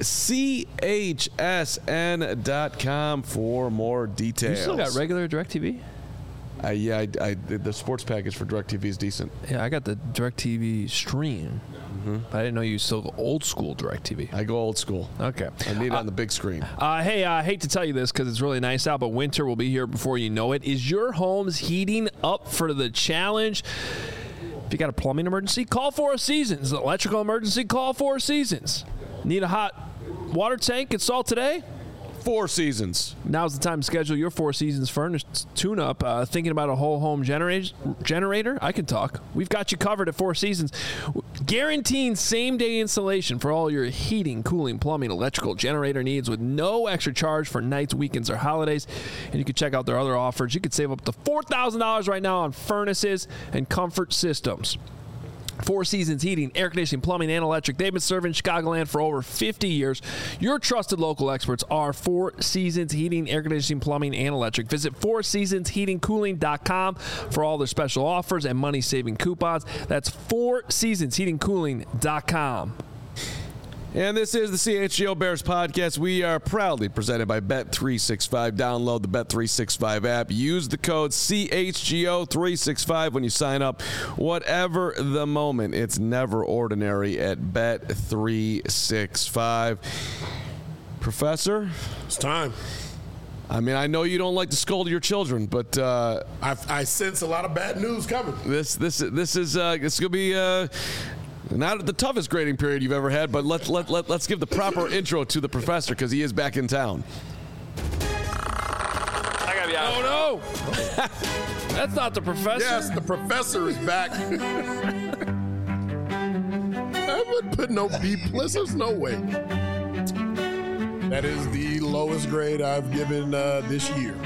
chsn.com for more details. You still got regular DirecTV? Yeah, the sports package for DirecTV is decent. Yeah, I got the DirecTV Stream. But I didn't know you still go old school DirecTV. I go old school. Okay. I need it on the big screen. Hey, I hate to tell you this because it's really nice out, but winter will be here before you know it. Is your home's heating up for the challenge? If you got a plumbing emergency, call Four Seasons. Electrical emergency, call Four Seasons. Need a hot water tank installed today? Four Seasons. Now's the time to schedule your Four Seasons furnace tune-up. Thinking about a whole home generator? I can talk. We've got you covered at Four Seasons. Guaranteeing same-day installation for all your heating, cooling, plumbing, electrical, generator needs with no extra charge for nights, weekends, or holidays. And you can check out their other offers. You could save up to $4,000 right now on furnaces and comfort systems. Four Seasons Heating, Air Conditioning, Plumbing, and Electric. They've been serving Chicagoland for over 50 years. Your trusted local experts are Four Seasons Heating, Air Conditioning, Plumbing, and Electric. Visit FourSeasonsHeatingCooling.com for all their special offers and money-saving coupons. That's FourSeasonsHeatingCooling.com. And this is the CHGO Bears podcast. We are proudly presented by Bet365. Download the Bet365 app. Use the code CHGO365 when you sign up. Whatever the moment, it's never ordinary at Bet365. Professor? It's time. I mean, I know you don't like to scold your children, but I sense a lot of bad news coming. This is going to be not the toughest grading period you've ever had, but let's give the proper intro to the professor because he is back in town. I gotta be out. Oh no! That's not the professor. Yes, the professor is back. I would put no B+. There's no way. That is the lowest grade I've given this year.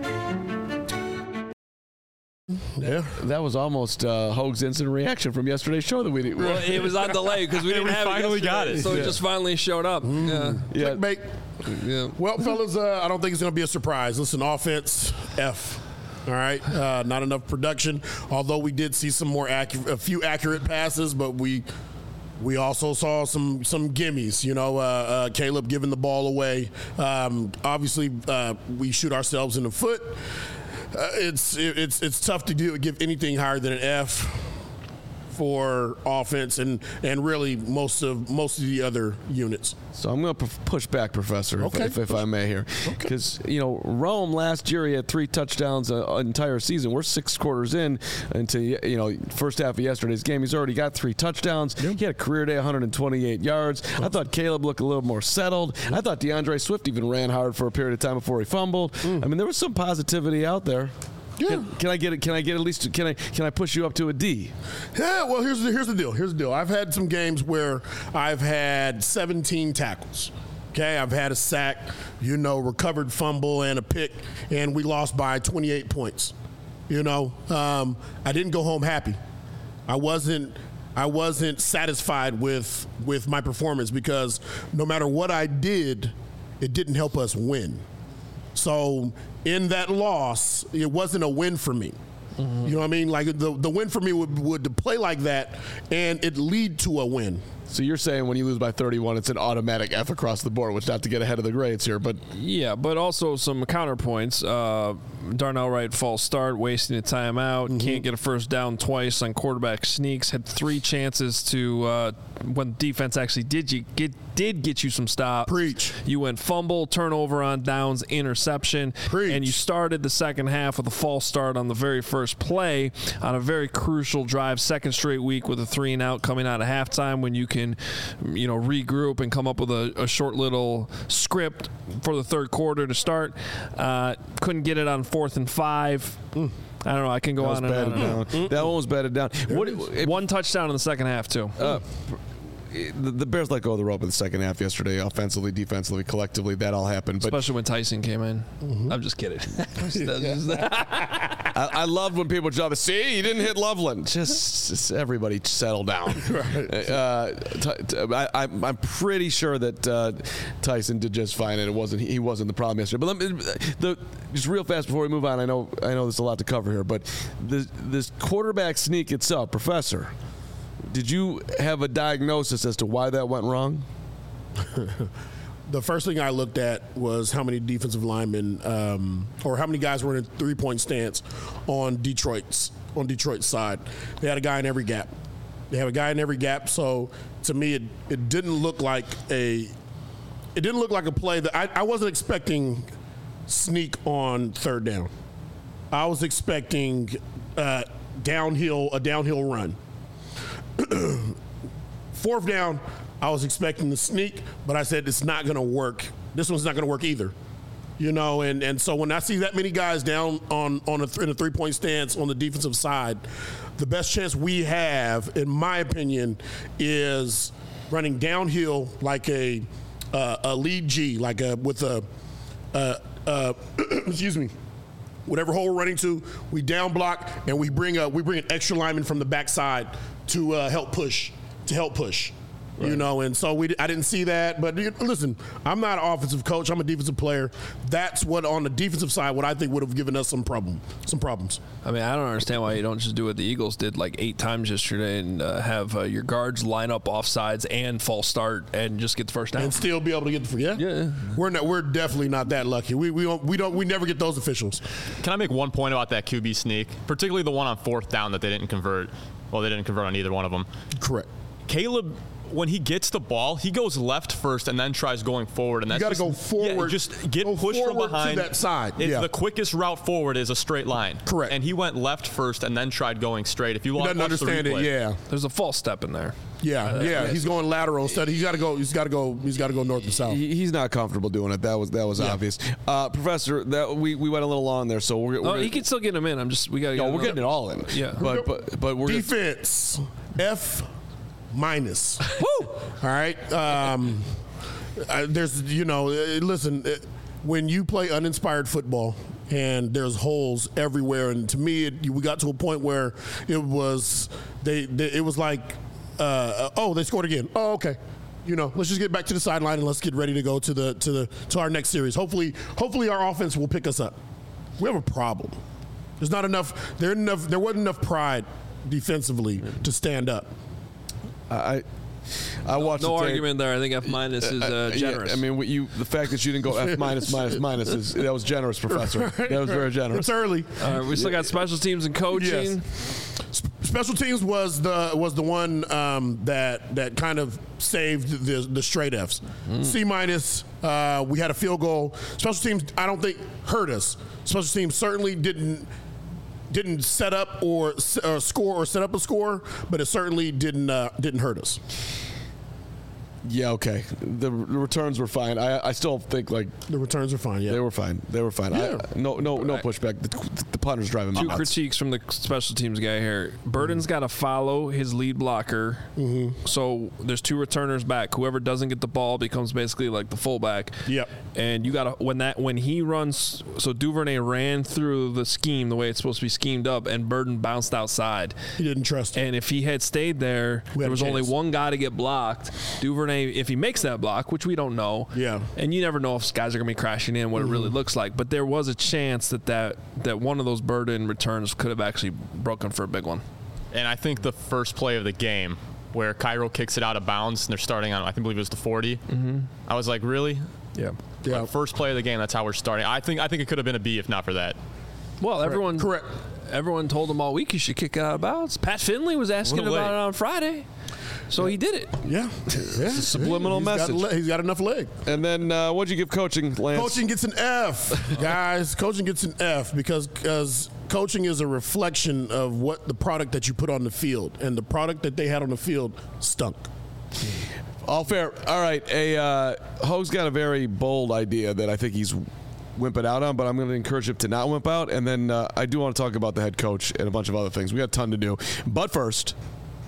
Yeah, that was almost Hogue's instant reaction from yesterday's show that we did. Well, it was on delay because we didn't have finally it got it. So it just finally showed up. Clickbait. Yeah. Well, fellas, I don't think it's going to be a surprise. Listen, offense, F. All right, not enough production. Although we did see some more a few accurate passes, but we We also saw some gimmies, Caleb giving the ball away. Obviously, we shoot ourselves in the foot. It's tough to give anything higher than an F for offense and really most of the other units. So I'm going to push back, Professor, if I may here. Because, Rome last year, he had 3 touchdowns an entire season. We're 6 quarters in into, first half of yesterday's game. He's already got 3 touchdowns. He had a career day, 128 yards. I thought Caleb looked a little more settled. I thought DeAndre Swift even ran hard for a period of time before he fumbled. I mean, there was some positivity out there. Yeah. Can I get at least? Can I push you up to a D? Yeah. Well, here's the deal. I've had some games where I've had 17 tackles. Okay, I've had a sack, recovered fumble and a pick, and we lost by 28 points. I didn't go home happy. I wasn't satisfied with my performance because no matter what I did, it didn't help us win. So in that loss, it wasn't a win for me. Mm-hmm. You know what I mean? Like the win for me would to play like that and it lead to a win. So you're saying when you lose by 31, it's an automatic F across the board, which not to get ahead of the grades here, but yeah, but also some counterpoints. Darnell Wright false start, wasting a timeout, can't get a first down twice on quarterback sneaks. Had 3 chances to when defense actually did get you some stops. Preach. You went fumble, turnover on downs, interception, and you started the second half with a false start on the very first play on a very crucial drive, second straight week with a 3-and-out coming out of halftime when you can, regroup and come up with a short little script for the third quarter to start. Couldn't get it on 4th and 5. I don't know. I can go on and on. That one was batted down. One touchdown in the second half, too. The Bears let go of the rope in the second half yesterday, offensively, defensively, collectively. That all happened. But especially when Tyson came in. I'm just kidding. I loved when people jump. See, you didn't hit Loveland. Just everybody settle down. I'm pretty sure that Tyson did just fine, and he wasn't the problem yesterday. But just real fast before we move on, I know there's a lot to cover here, but this quarterback sneak itself, Professor. Did you have a diagnosis as to why that went wrong? The first thing I looked at was how many defensive linemen or how many guys were in a 3-point stance on Detroit's side. They had a guy in every gap. So to me, it didn't look like a play that I wasn't expecting sneak on third down. I was expecting a downhill run. 4th down, I was expecting the sneak, but I said it's not going to work. This one's not going to work either. And so when I see that many guys down in a 3-point stance on the defensive side, the best chance we have, in my opinion, is running downhill like a lead G, with a excuse me. Whatever hole we're running to, we down block and we bring an extra lineman from the backside to help push. Right. And so I didn't see that. But listen, I'm not an offensive coach. I'm a defensive player. That's what on the defensive side, what I think would have given us some problems. I mean, I don't understand why you don't just do what the Eagles did like 8 times yesterday and have your guards line up offsides and false start and just get the first down and still be able to get the yeah. We're definitely not that lucky. We never get those officials. Can I make one point about that QB sneak, particularly the one on 4th down that they didn't convert? Well, they didn't convert on either one of them. Correct. Caleb, when he gets the ball, he goes left first and then tries going forward. And that's you got to go forward. Yeah, just get pushed from behind. To that side. The quickest route forward is a straight line. Correct. And he went left first and then tried going straight. If you doesn't understand it, yeah. There's a false step in there. Yeah. He's going lateral instead. He's got to go north and south. He's not comfortable doing it. That was obvious. Professor, we went a little long there, so we're he can still get him in. We're getting it all in. Yeah. But we're defense F-. Woo! All right. There's listen, when you play uninspired football and there's holes everywhere, and to me we got to a point where it was it was like they scored again. Oh, okay. Let's just get back to the sideline and let's get ready to go to our next series. Hopefully our offense will pick us up. We have a problem. There's not enough. There wasn't enough pride defensively to stand up. I watched No the tape. argument there. I think F- is generous. Yeah, I mean, the fact that you didn't go F minus that was generous, Professor. That was very generous. It's early. We still got special teams and coaching. Yes. Special teams was the one that kind of saved the straight Fs. C minus. We had a field goal. Special teams, I don't think hurt us. Special teams certainly didn't set up or score or set up a score, but it certainly didn't hurt us. Yeah, okay. The returns were fine. I still think the returns are fine. Yeah, they were fine. Yeah. No pushback. The punter's driving me Two nuts. critiques from the special teams guy here. Burden's got to follow his lead blocker. So there's two returners back. Whoever doesn't get the ball becomes basically like the fullback. Yep. And you got to when he runs. So Duvernay ran through the scheme the way it's supposed to be schemed up, and Burden bounced outside. He didn't trust him. And if he had stayed there, there was only one guy to get blocked. Duvernay, if he makes that block, which we don't know, and you never know if guys are going to be crashing in, what it really looks like, but there was a chance that one of those Burden returns could have actually broken for a big one. And I think the first play of the game where Cairo kicks it out of bounds and they're starting on, I believe it was the 40. I was like, really? Yeah. Like, first play of the game, that's how we're starting. I think it could have been a B if not for that. Well, Correct. Everyone told him all week he should kick it out of bounds. Pat Finley was asking about it on Friday. So he did it. Yeah. It's a subliminal message. He's got enough leg. And then what'd you give coaching, Lance? Coaching gets an F, guys. Coaching gets an F because coaching is a reflection of what the product that you put on the field, and the product that they had on the field stunk. All fair. All right. Ho's got a very bold idea that I think he's wimping out on, but I'm going to encourage him to not wimp out. And then I do want to talk about the head coach and a bunch of other things. We got a ton to do. But first...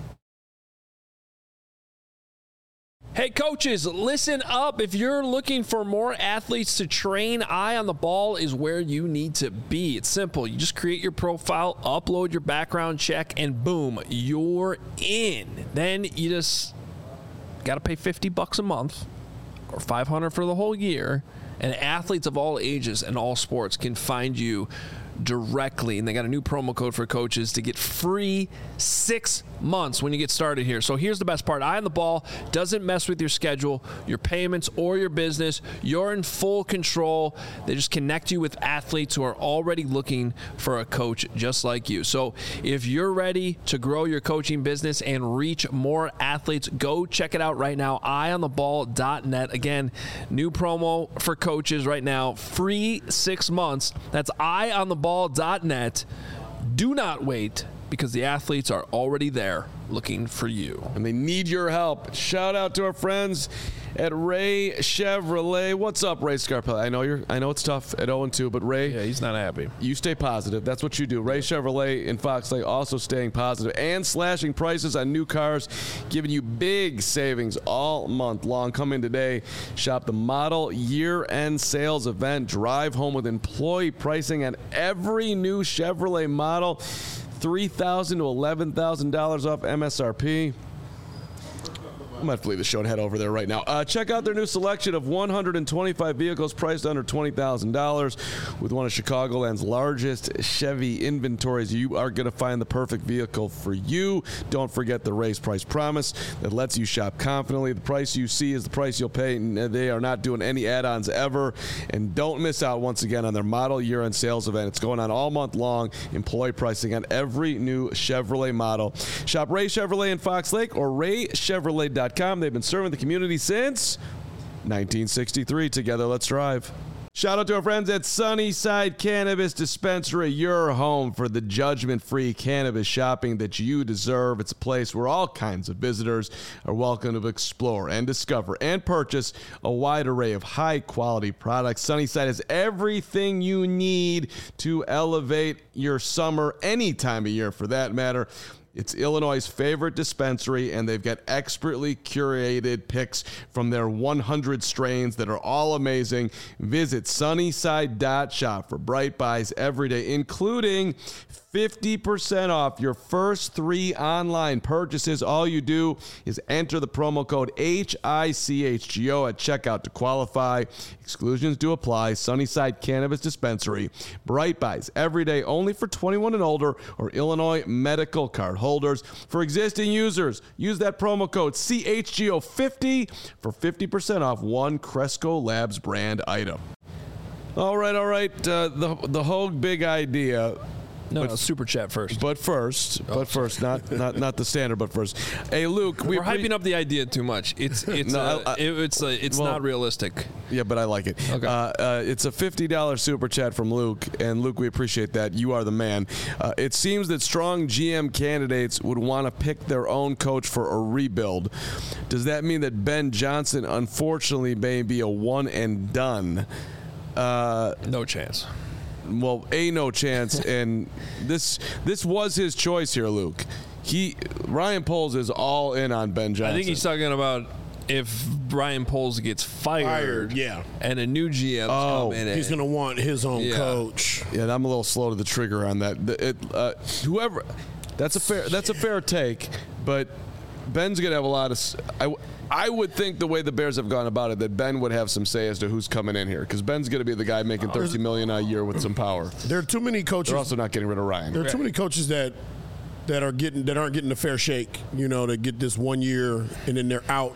Hey, coaches, listen up. If you're looking for more athletes to train, Eye on the Ball is where you need to be. It's simple. You just create your profile, upload your background check, and boom, you're in. Then you just got to pay $50 a month or $500 for the whole year, and athletes of all ages and all sports can find you directly, and they got a new promo code for coaches to get free 6 months when you get started here. So here's the best part. Eye on the Ball doesn't mess with your schedule, your payments, or your business. You're in full control. They just connect you with athletes who are already looking for a coach just like you. So if you're ready to grow your coaching business and reach more athletes, go check it out right now, eyeontheball.net. Again, new promo for coaches right now, free 6 months. That's eyeontheball.net. Do not wait, because the athletes are already there looking for you. And they need your help. Shout out to our friends at Ray Chevrolet. What's up, Ray Scarpelli? I know it's tough at 0-2, but Ray, Yeah, he's not happy. you stay positive. That's what you do. Ray Chevrolet in Fox Lake also staying positive and slashing prices on new cars, giving you big savings all month long. Come in today, shop the model year-end sales event, drive home with employee pricing on every new Chevrolet model, $3,000 to $11,000 off MSRP. I might have to leave the show and head over there right now. Check out their new selection of 125 vehicles priced under $20,000 with one of Chicagoland's largest Chevy inventories. You are going to find the perfect vehicle for you. Don't forget the race price promise that lets you shop confidently. The price you see is the price you'll pay, and they are not doing any add-ons ever. And don't miss out once again on their model year-end sales event. It's going on all month long. Employee pricing on every new Chevrolet model. Shop Ray Chevrolet in Fox Lake or raychevrolet.com. They've been serving the community since 1963. Together, let's drive. Shout out to our friends at Sunnyside Cannabis Dispensary, your home for the judgment-free cannabis shopping that you deserve. It's a place where all kinds of visitors are welcome to explore and discover and purchase a wide array of high-quality products. Sunnyside has everything you need to elevate your summer, any time of year for that matter. It's Illinois' favorite dispensary, and they've got expertly curated picks from their 100 strains that are all amazing. Visit Sunnyside.shop for bright buys every day, including 50% off your first 3 online purchases. All you do is enter the promo code HICHGO at checkout to qualify. Exclusions do apply. Sunnyside Cannabis Dispensary. Bright buys every day, only for 21 and older or Illinois medical card holders. For existing users, use that promo code CHGO50 for 50% off one Cresco Labs brand item. All right. The Hogue big idea. No, Super Chat first. But first, not the standard. But first, hey Luke, we're hyping up the idea too much. It's not realistic. Yeah, but I like it. Okay. It's a $50 super chat from Luke, and Luke, we appreciate that. You are the man. It seems that strong GM candidates would want to pick their own coach for a rebuild. Does that mean that Ben Johnson, unfortunately, may be a one and done? No chance. Well, no chance, and this was his choice here, Luke. Ryan Poles is all in on Ben Johnson. I think he's talking about if Ryan Poles gets fired, yeah, and a new GM come in. He's going to want his own coach. Yeah, I'm a little slow to the trigger on that. Whoever, that's a fair take, but Ben's going to have a lot of. I would think the way the Bears have gone about it that Ben would have some say as to who's coming in here because Ben's going to be the guy making $30 million a year with some power. There are too many coaches. They're also not getting rid of Ryan. There are too many coaches that aren't getting a fair shake. To get this 1 year and then they're out.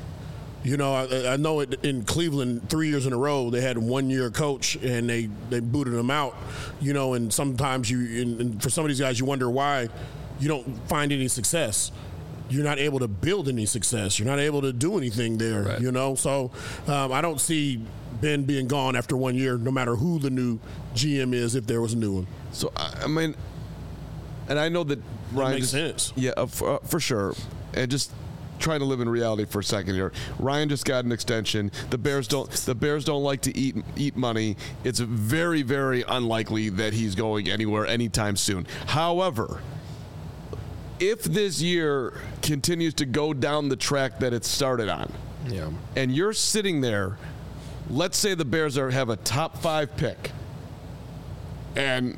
I know it in Cleveland 3 years in a row they had a 1 year coach and they booted him out. And sometimes and for some of these guys you wonder why you don't find any success. You're not able to build any success. You're not able to do anything there, right. So I don't see Ben being gone after 1 year, no matter who the new GM is, if there was a new one. So, I mean, and I know that Ryan makes sense. Yeah, for sure. And just trying to live in reality for a second here. Ryan just got an extension. The Bears don't like to eat money. It's very, very unlikely that he's going anywhere anytime soon. However, if this year continues to go down the track that it started on, and you're sitting there, let's say the Bears have a top 5 pick, and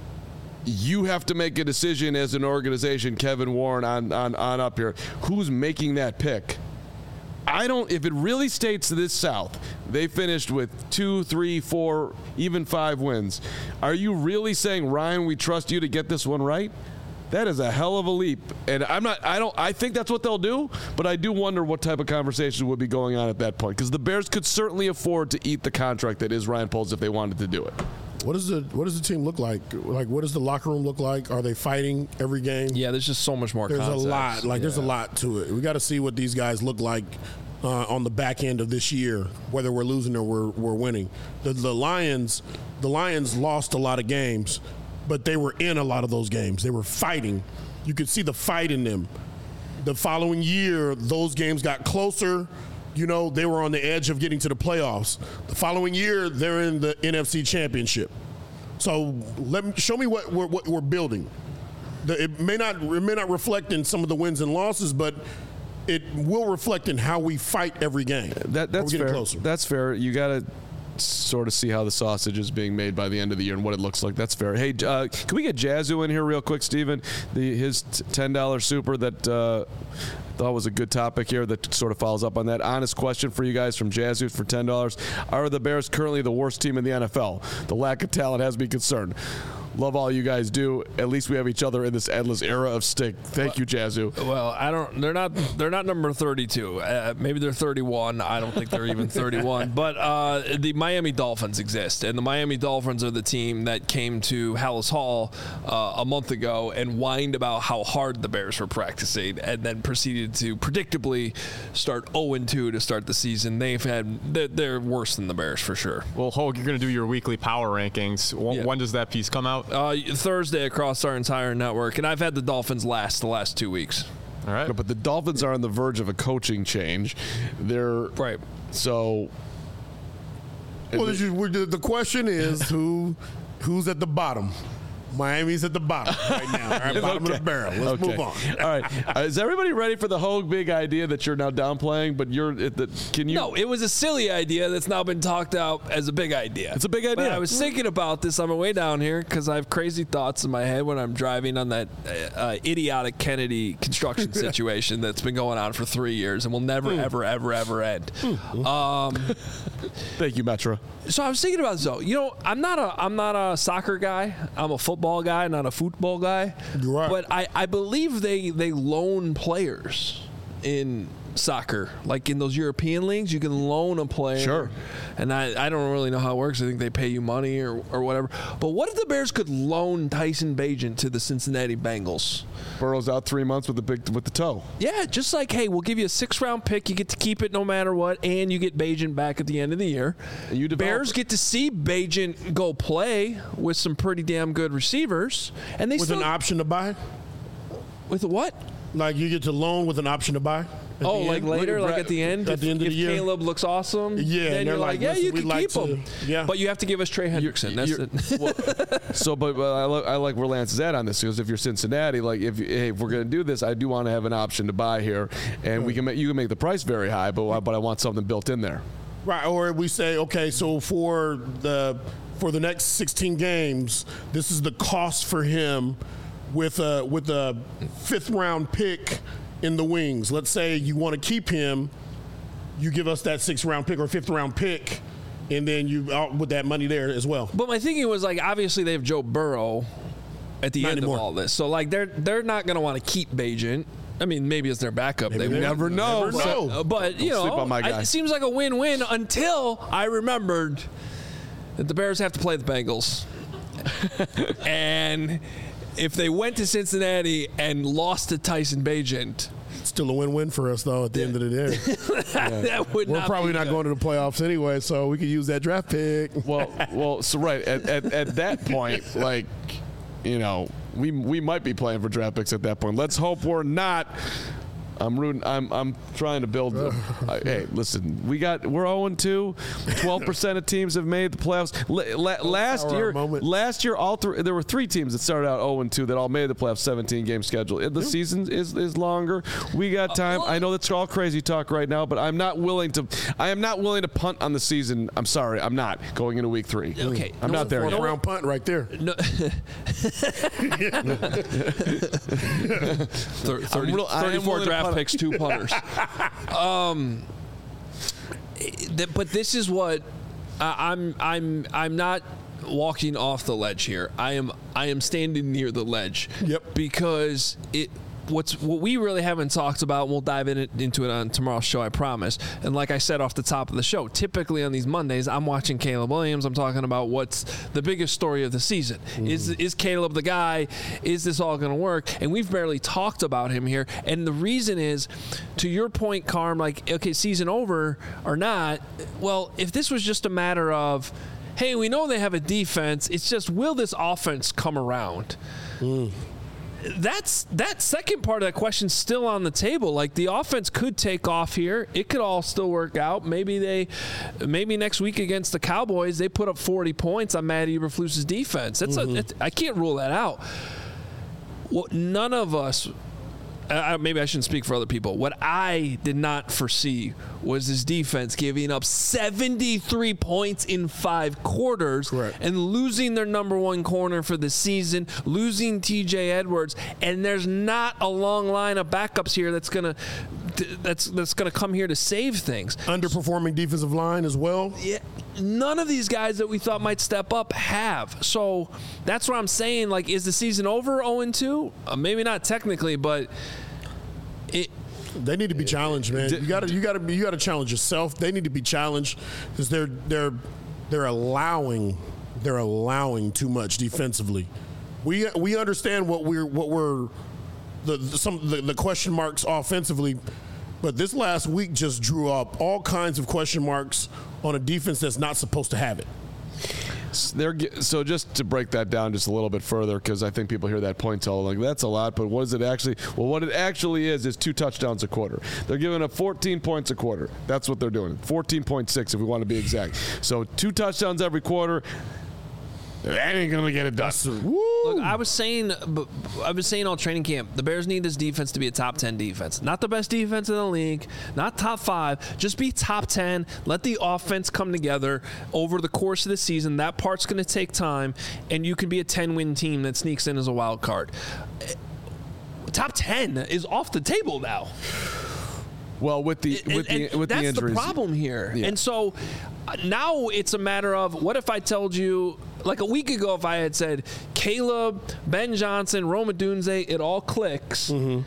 you have to make a decision as an organization, Kevin Warren on up here, who's making that pick. If it really states this South, they finished with 2, 3, 4, even 5 wins. Are you really saying, Ryan, we trust you to get this one right? That is a hell of a leap, and I think that's what they'll do, but I do wonder what type of conversation would be going on at that point, because the Bears could certainly afford to eat the contract that is Ryan Poles if they wanted to do it. What does the team look like? Like, what does the locker room look like? Are they fighting every game? Yeah, there's just so much more. There's concepts. A lot. There's a lot to it. We got to see what these guys look like on the back end of this year, whether we're losing or we're winning. The Lions lost a lot of games, but they were in a lot of those games. They were fighting. You could see the fight in them. The following year, those games got closer. They were on the edge of getting to the playoffs. The following year, they're in the NFC Championship. So show me what we're building. It may not reflect in some of the wins and losses, but it will reflect in how we fight every game. That's fair. Closer. That's fair. You got to sort of see how the sausage is being made by the end of the year and what it looks like. That's fair. Hey, can we get Jazzu in here real quick, Steven? His $10 super that thought was a good topic here that sort of follows up on that. Honest question for you guys from Jazzu for $10. Are the Bears currently the worst team in the NFL? The lack of talent has me concerned. Love all you guys do. At least we have each other in this endless era of stink. Thank you, Jazzu. Well, I don't. They're not number 32. Maybe they're 31. I don't think they're even 31. But the Miami Dolphins exist, and the Miami Dolphins are the team that came to Hallis Hall a month ago and whined about how hard the Bears were practicing, and then proceeded to predictably start 0-2 to start the season. They're worse than the Bears for sure. Well, Hogue, you're going to do your weekly power rankings. When does that piece come out? Thursday across our entire network, and I've had the Dolphins the last 2 weeks. All right. But the Dolphins are on the verge of a coaching change. They're right. So. Well, the question is who's at the bottom? Miami's at the bottom right now. All right, bottom of the barrel. Let's move on. All right. Is everybody ready for the Hogue big idea that you're now downplaying? But No, it was a silly idea that's now been talked out as a big idea. It's a big idea. But I was thinking about this on my way down here because I have crazy thoughts in my head when I'm driving on that idiotic Kennedy construction situation that's been going on for 3 years and will never, ever, ever, ever end. Thank you, Metro. So I was thinking about this though. You know, I'm not a soccer guy. I'm a football guy, not a football guy. You're right. But I believe they loan players in soccer, like in those European leagues. You can loan a player. Sure. And I don't really know how it works. I think they pay you money or whatever. But what if the Bears could loan Tyson Bagent to the Cincinnati Bengals? Burrow's out 3 months with the toe. Yeah, just like, hey, we'll give you a 6th-round pick. You get to keep it no matter what, and you get Bagent back at the end of the year. And Bears get to see Bagent go play with some pretty damn good receivers, and they With an option to buy? with what? Like you get to loan with an option to buy? Oh, like later, like at the end? At the end of if the year? Caleb looks awesome, Yeah, then and you're they're like, like, yeah, listen, you we'd can like keep to- him. yeah. But you have to give us Trey Hendrickson. That's it. So, but I like where Lance is at on this, because if you're Cincinnati, like if we're going to do this, I do want to have an option to buy here, and you can make the price very high, but I want something built in there. Right, or we say, okay, so for the next 16 games, this is the cost for him with a 5th-round pick in the wings. Let's say you want to keep him, you give us that 6th-round pick or 5th-round pick, and then you out with that money there as well. But my thinking was, like, obviously they have Joe Burrow at the Not end anymore. of all this. So, like, they're not going to want to keep Bagent. I mean, maybe as their backup. Maybe they they would. Never know. Never know. But, you Don't sleep know, on my guy. it seems like a win-win until I remembered that the Bears have to play the Bengals. And if they went to Cincinnati and lost to Tyson Bagent, Still a win-win for us, though, at the end of the day. that would We're not probably be not good. going to the playoffs anyway, so we could use that draft pick. Well, so right at that point, like, you know, we might be playing for draft picks at that point. Let's hope we're not. I'm rooting. I'm trying to build. Hey, listen, we're 0-2. 12% of teams have made the playoffs. Last year, there were 3 teams that started out 0-2 that all made the playoffs. 17-game schedule. The season is longer. We got time. I know that's all crazy talk right now, but I am not willing to punt on the season. I'm sorry, I'm not going into week 3. Okay. I'm not there yet. 4th-round punt right there. No. 34 draft picks, 2 punters. But this is what I'm not walking off the ledge here. I am standing near the ledge. Yep. Because what we really haven't talked about, and we'll dive into it on tomorrow's show, I promise. And like I said off the top of the show, typically on these Mondays, I'm watching Caleb Williams. I'm talking about what's the biggest story of the season. Is Caleb the guy? Is this all going to work? And we've barely talked about him here. And the reason is, to your point, Carm, like, okay, season over or not, well, if this was just a matter of, hey, we know they have a defense, it's just, will this offense come around? That second part of that question still on the table. Like, the offense could take off here. It could all still work out. Maybe next week against the Cowboys they put up 40 points on Matt Eberflus's defense. I can't rule that out. What none of us. Maybe I shouldn't speak for other people. What I did not foresee was his defense giving up 73 points in 5 quarters. Correct. And losing their number 1 corner for the season, losing TJ Edwards, and there's not a long line of backups here that's gonna come here to save things. Underperforming defensive line as well. Yeah, none of these guys that we thought might step up have. So that's what I'm saying. Like, is the season over 0-2? Maybe not technically, but They need to be challenged, man. You got to challenge yourself. They need to be challenged because they're allowing too much defensively. We understand what we're the question marks offensively, but this last week just drew up all kinds of question marks on a defense that's not supposed to have it. So just to break that down just a little bit further, because I think people hear that point tell like that's a lot, but what is it actually? Well, what it actually is 2 touchdowns a quarter. They're giving up 14 points a quarter. That's what they're doing. 14.6 if we want to be exact. So 2 touchdowns every quarter. That ain't gonna get it done. look, I was saying all training camp, the Bears need this defense to be a top 10 defense. Not the best defense in the league, not top 5, just be top 10. Let the offense come together over the course of the season. That part's going to take time, and you can be a 10-win team that sneaks in as a wild card. Top 10 is off the table now. Well, with the injuries, that's the problem here. Yeah. And so now it's a matter of, what if I told you, like a week ago, if I had said Caleb, Ben Johnson, Rome Odunze, it all clicks. Mm-hmm.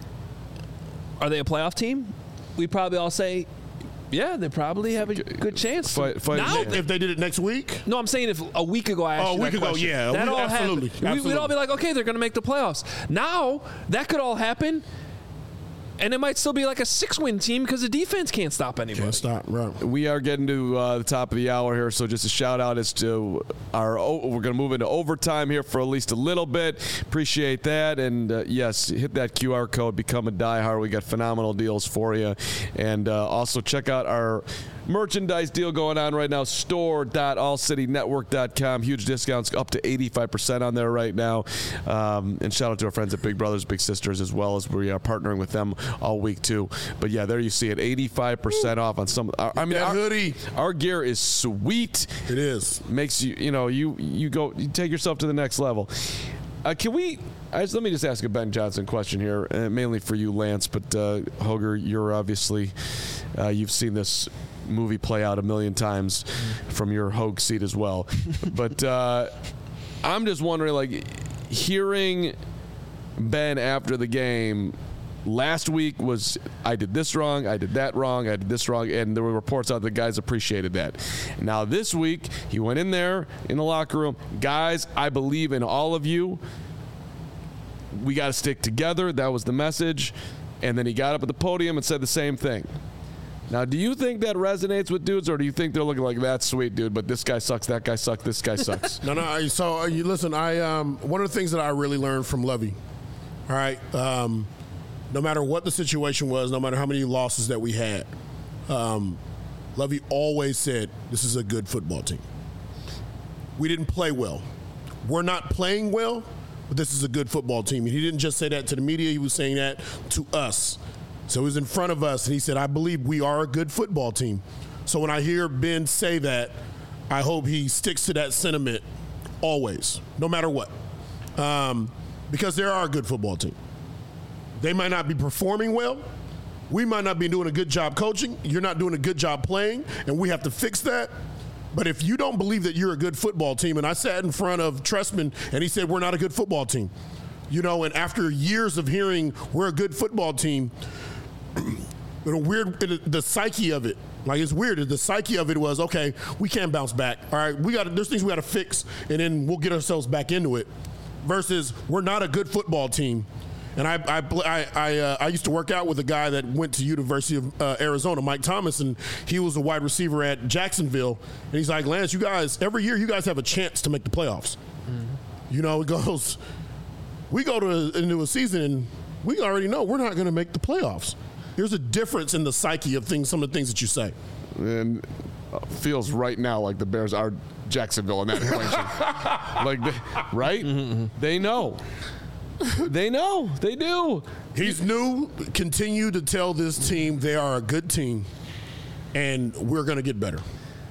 Are they a playoff team? We'd probably all say, yeah, they probably have a good chance. Now, if they did it next week? No, I'm saying if a week ago I asked you that question. Yeah. That all absolutely. happened. We'd all be like, okay, they're going to make the playoffs. Now, that could all happen, and it might still be like a 6-win team because the defense can't stop anybody. Can't stop, right. We are getting to the top of the hour here, so just a shout-out as to we're going to move into overtime here for at least a little bit. Appreciate that. And, yes, hit that QR code, become a diehard. We got phenomenal deals for you. And also check out our merchandise deal going on right now, store.allcitynetwork.com. Huge discounts up to 85% on there right now. And shout out to our friends at Big Brothers Big Sisters as well, as we are partnering with them all week too. But yeah, there you see it, 85% off on some. I mean, our hoodie, our gear is sweet. It is. Makes you take yourself to the next level. Let me just ask a Ben Johnson question here, mainly for you, Lance. But Hoger, you're obviously you've seen this movie play out a million times from your Hogue seat as well. But I'm just wondering, like, hearing Ben after the game last week was, I did this wrong, I did that wrong, I did this wrong, and there were reports out that guys appreciated that. Now this week, he went in there in the locker room, guys, I believe in all of you. We got to stick together. That was the message. And then he got up at the podium and said the same thing. Now, do you think that resonates with dudes, or do you think they're looking like, that's sweet, dude, but this guy sucks, that guy sucks, this guy sucks? No. So you listen. One of the things that I really learned from Lovey, all right, no matter what the situation was, no matter how many losses that we had, Lovey always said, "This is a good football team." We didn't play well. We're not playing well, but this is a good football team. And he didn't just say that to the media; he was saying that to us. So he was in front of us, and he said, I believe we are a good football team. So when I hear Ben say that, I hope he sticks to that sentiment always, no matter what. Because they are a good football team. They might not be performing well. We might not be doing a good job coaching. You're not doing a good job playing, and we have to fix that. But if you don't believe that you're a good football team, and I sat in front of Trestman, and he said, we're not a good football team. And after years of hearing we're a good football team, the psyche of it, like, it's weird. The psyche of it was, okay, we can't bounce back. All right, there's things we got to fix, and then we'll get ourselves back into it. Versus, we're not a good football team. And I used to work out with a guy that went to University of Arizona, Mike Thomas, and he was a wide receiver at Jacksonville. And he's like, Lance, you guys, every year you guys have a chance to make the playoffs. Mm-hmm. It goes, we go into a season and we already know we're not going to make the playoffs. There's a difference in the psyche of some of the things that you say. And feels right now like the Bears are Jacksonville in that equation. Right? Mm-hmm. They know. They know. They do. He's new. Continue to tell this team they are a good team, and we're going to get better.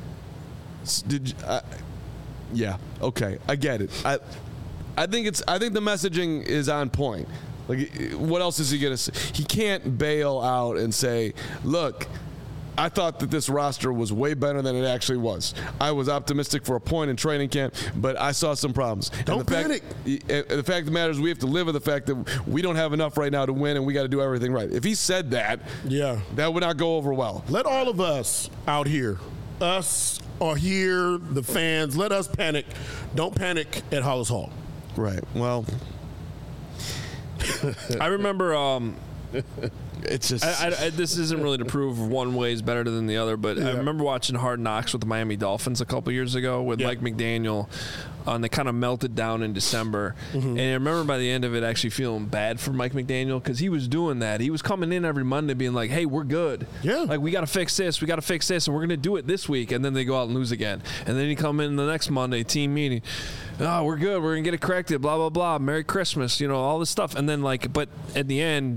Yeah. Okay. I get it. I think the messaging is on point. Like, what else is he going to say? He can't bail out and say, look, I thought that this roster was way better than it actually was. I was optimistic for a point in training camp, but I saw some problems. Don't panic. The fact of the matter is we have to live with the fact that we don't have enough right now to win, and we got to do everything right. If he said that, that would not go over well. Let all of us out here, us or here, the fans, let us panic. Don't panic at Hollis Hall. Right. Well, I remember it's just this isn't really to prove one way is better than the other, but I remember watching Hard Knocks with the Miami Dolphins a couple years ago with Mike McDaniel, and they kind of melted down in December. Mm-hmm. And I remember by the end of it actually feeling bad for Mike McDaniel because he was doing that. He was coming in every Monday being like, hey, we're good. Yeah. Like, we got to fix this, and we're going to do it this week. And then they go out and lose again. And then he come in the next Monday, team meeting. Oh, we're good. We're going to get it corrected, blah, blah, blah. Merry Christmas, all this stuff. And then, but at the end,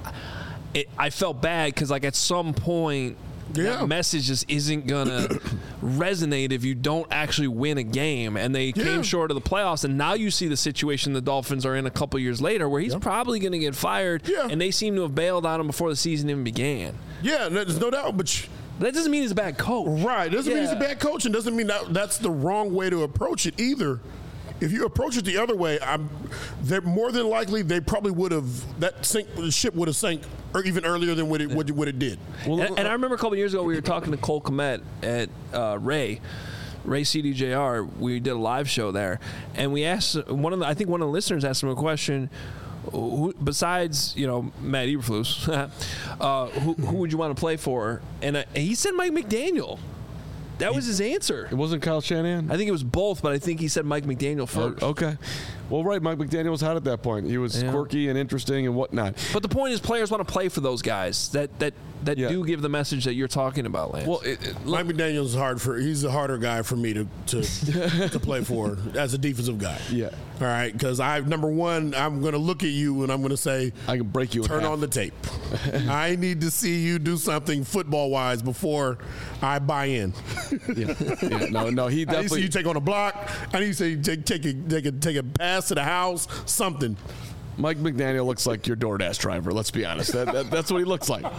I felt bad because, at some point, that message just isn't going to resonate if you don't actually win a game. And they came short of the playoffs, and now you see the situation the Dolphins are in a couple years later where he's probably going to get fired, and they seem to have bailed on him before the season even began. Yeah, there's no doubt, but that doesn't mean he's a bad coach. Right. Doesn't mean he's a bad coach, and doesn't mean that's the wrong way to approach it either. If you approach it the other way, they're more than likely they probably would have the ship would have sank or even earlier than what it did. Well, and I remember a couple of years ago we were talking to Cole Kmet at Ray CDJR. We did a live show there, and we asked I think one of the listeners asked him a question. Who, besides, Matt Eberflus, who would you want to play for? And he said Mike McDaniel. That was his answer. It wasn't Kyle Shanahan? I think it was both, but I think he said Mike McDaniel first. Okay. Well, right, Mike McDaniel was hot at that point. He was quirky and interesting and whatnot. But the point is players want to play for those guys that do give the message that you're talking about, Lance. Well, Mike McDaniel's he's a harder guy for me to play for as a defensive guy. Yeah. All right, because number one, I'm going to look at you and I'm going to say, I can break you in turn half. on the tape. I need to see you do something football-wise before I buy in. No, he definitely. I need to see you take on a block. I need to see you take a pass to the house, something. Mike McDaniel looks like your DoorDash driver. Let's be honest. That's what he looks like.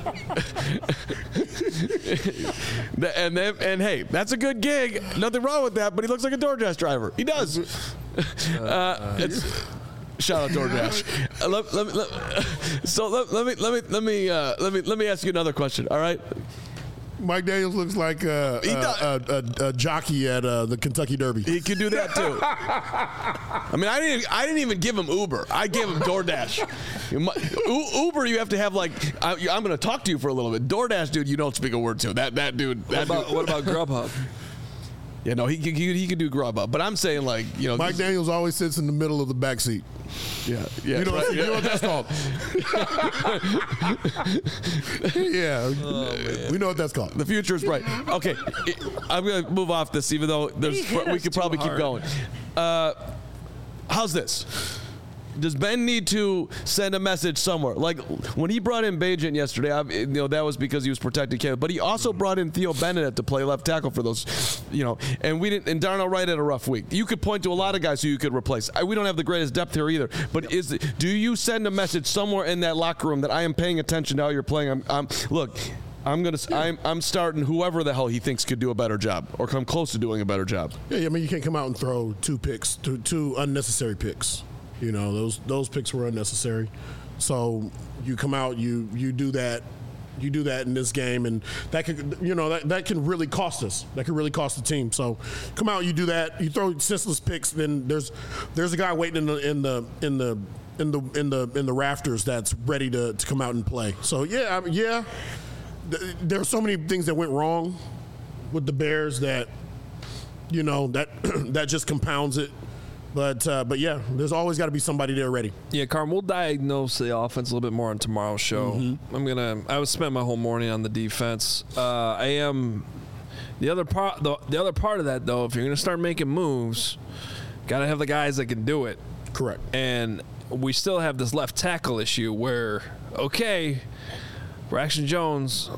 and hey, that's a good gig. Nothing wrong with that. But he looks like a DoorDash driver. He does. Shout out DoorDash. Let me ask you another question. All right. Mike Daniels looks like a jockey at the Kentucky Derby. He could do that too. I mean, I didn't even give him Uber. I gave him DoorDash. Uber, you have to have I'm going to talk to you for a little bit. DoorDash, dude, you don't speak a word to. That dude. What about Grubhub? Yeah, no, he could do Grubhub. But I'm saying Mike Daniels always sits in the middle of the back seat. Yeah. You know what that's called? Yeah. We know what that's called. The future is bright. Okay, I'm going to move off this, even though we could probably keep going. How's this? Does Ben need to send a message somewhere? Like when he brought in Bagent yesterday, that was because he was protecting Caleb. But he also brought in Theo Bennett to play left tackle for those, And we didn't. And Darnell Wright had a rough week. You could point to a lot of guys who you could replace. We don't have the greatest depth here either. But do you send a message somewhere in that locker room that I am paying attention to how you're playing? I'm starting whoever the hell he thinks could do a better job or come close to doing a better job. Yeah, I mean you can't come out and throw two unnecessary picks. Those picks were unnecessary. So you come out, you do that in this game, and that could that can really cost us. That could really cost the team. So come out, you do that, you throw senseless picks. Then there's a guy waiting in the rafters that's ready to come out and play. So there are so many things that went wrong with the Bears that that just compounds it. But yeah, there's always got to be somebody there ready. Yeah, Carm, we'll diagnose the offense a little bit more on tomorrow's show. Mm-hmm. I would spend my whole morning on the defense. The other part of that though, if you're gonna start making moves, gotta have the guys that can do it. Correct. And we still have this left tackle issue where Braxton Jones,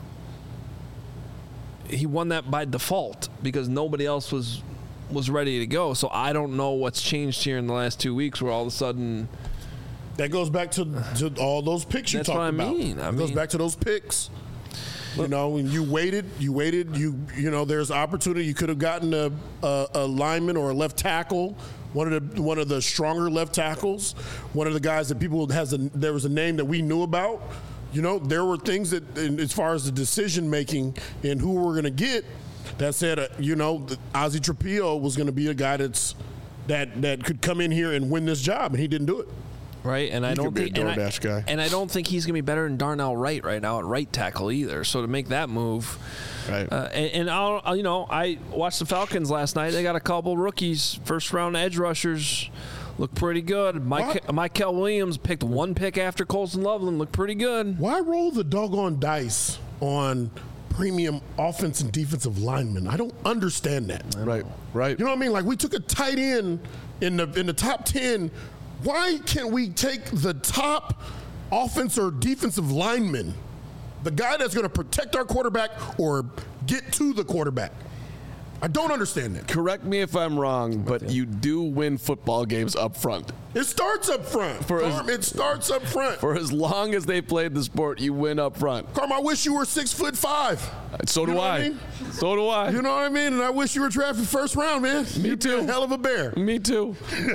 he won that by default because nobody else was ready to go. So I don't know what's changed here in the last 2 weeks where all of a sudden that goes back to all those picks you talked about. That's what I mean. It goes back to those picks. When you waited, there's opportunity. You could have gotten a lineman or a left tackle, one of the stronger left tackles, one of the guys that there was a name that we knew about. There were things that, as far as the decision making and who we're going to get, that said, Ozzie Trapillo was going to be a guy that could come in here and win this job, and he didn't do it. Right, and I don't think guy. And I don't think he's going to be better than Darnell Wright right now at right tackle either. So to make that move, right? I watched the Falcons last night. They got a couple rookies, first round edge rushers, look pretty good. Mykel Williams picked one pick after Colston Loveland, looked pretty good. Why roll the doggone dice on premium offense and defensive linemen? I don't understand that. Right. You know what I mean? Like we took a tight end in the top 10. Why can't we take the top offense or defensive lineman, the guy that's going to protect our quarterback or get to the quarterback? I don't understand that. Correct me if I'm wrong, but you do win football games up front. It starts up front. It starts up front. For as long as they played the sport, you win up front. Carm, I wish you were 6'5". So do I. mean? So do I. You know what I mean? And I wish you were drafted first round, man. Me You'd be too. a hell of a bear. Me too.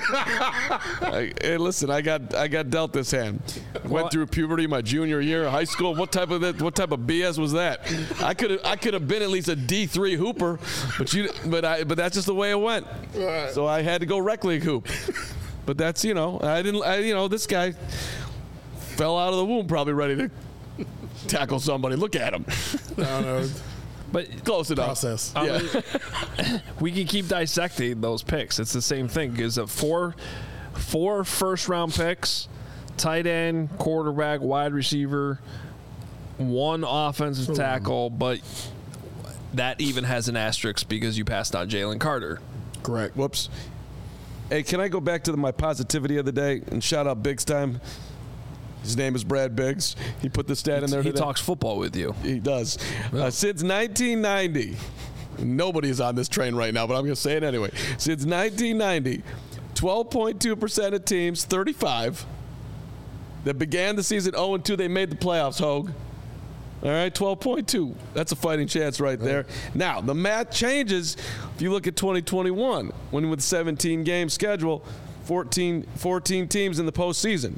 Hey, listen, I got dealt this hand. Went through puberty my junior year of high school. What type of BS was that? I could have been at least a D3 hooper, but that's just the way it went. Right. So I had to go rec league hoop. But that's this guy fell out of the womb probably ready to tackle somebody. Look at him. No. But Close enough. Process. Yeah. we can keep dissecting those picks. It's the same thing. Is it four first-round picks, tight end, quarterback, wide receiver, one offensive tackle, but that even has an asterisk because you passed on Jalen Carter. Correct. Whoops. Hey, can I go back to my positivity of the day and shout out Biggs time? His name is Brad Biggs. He put the stat in there He today. talks football with you. He does. Since 1990, nobody's on this train right now, but I'm going to say it anyway. Since 1990, 12.2% of teams, 35, that began the season 0-2, they made the playoffs, Hogue. All right, 12.2. That's a fighting chance right there. Now, the math changes if you look at 2021, when with 17-game schedule, 14 teams in the postseason.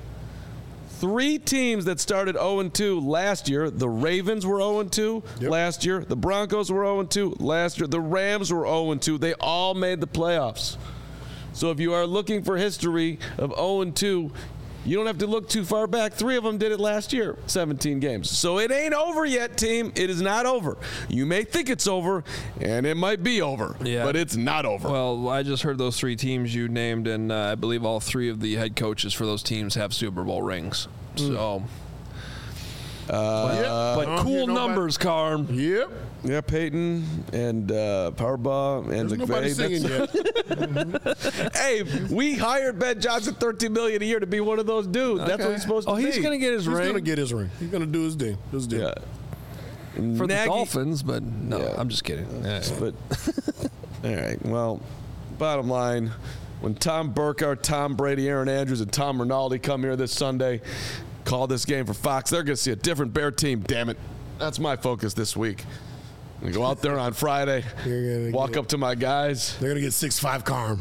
3 teams that started 0-2 last year. The Ravens were 0-2 last year. The Broncos were 0-2 last year. The Rams were 0-2. They all made the playoffs. So if you are looking for history of 0-2, you don't have to look too far back. 3 of them did it last year, 17 games. So it ain't over yet, team. It is not over. You may think it's over, and it might be over, but it's not over. Well, I just heard those 3 teams you named, and I believe all 3 of the head coaches for those teams have Super Bowl rings. So, but cool numbers, Carm. Yep. Yeah, Peyton and Powerball and There's nobody singing yet. Hey, we hired Ben Johnson $13 million a year to be one of those dudes. That's what he's supposed to be. He's going to get his He's ring going to get his ring. He's going to do his thing. Yeah. for the Dolphins, but no, I'm just kidding. But all right, well, bottom line, when Tom Burkhardt, Tom Brady, Aaron Andrews, and Tom Rinaldi come here this Sunday, call this game for Fox, they're going to see a different Bear team. Damn it, that's my focus this week. I'm going to go out there on Friday, walk up to my guys. They're going to get 6'5" Carm.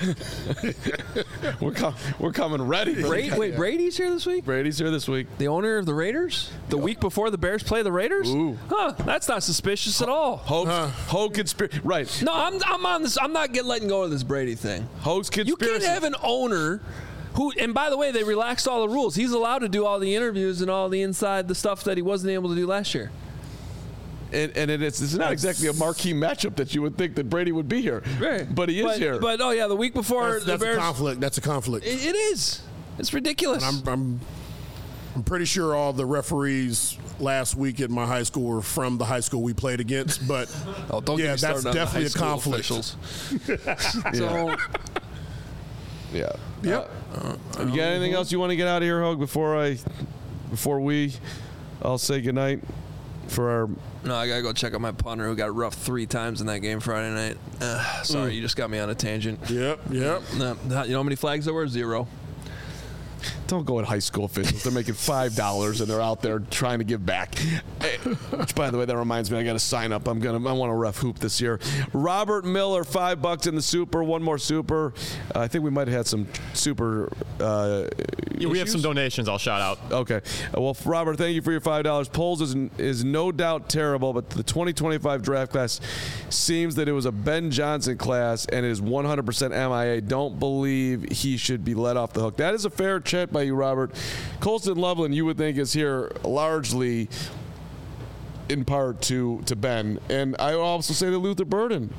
We're coming ready. Wait, Brady's here this week? Brady's here this week. The owner of the Raiders? The week before the Bears play the Raiders? Ooh. Huh, that's not suspicious at all. Hogue conspiracy. Right. No, I'm on this. I'm not letting go of this Brady thing. Hogue's conspiracy. You can't have an owner who, and by the way, they relaxed all the rules. He's allowed to do all the interviews and all the stuff that he wasn't able to do last year. And it's not exactly a marquee matchup that you would think that Brady would be here. Right. But he is here. But the week before the That's Bears. a conflict. That's a conflict. It is. It's ridiculous. I'm pretty sure all the referees last week at my high school were from the high school we played against. But don't get me that's started on the definitely high a school conflict. officials. So, Yeah. Yep. You got anything else you want to get out of here, Hogue, before we all say goodnight for our... no, I got to go check out my punter who got roughed 3 times in that game Friday night. Sorry, you just got me on a tangent. Yep. No, you know how many flags there were? 0. Don't go at high school officials. They're making $5 and they're out there trying to give back. Which, by the way, that reminds me, I got to sign up. I want to ref hoop this year. Robert Miller, $5 in the super. One more super. I think we might have had some super. We have some donations. I'll shout out. Okay. Well, Robert, thank you for your $5. Polls is no doubt terrible, but the 2025 draft class seems that it was a Ben Johnson class and it is 100% MIA. Don't believe he should be let off the hook. That is a fair check by you, Robert. Colston Loveland, you would think, is here largely in part to Ben. And I also say that Luther Burden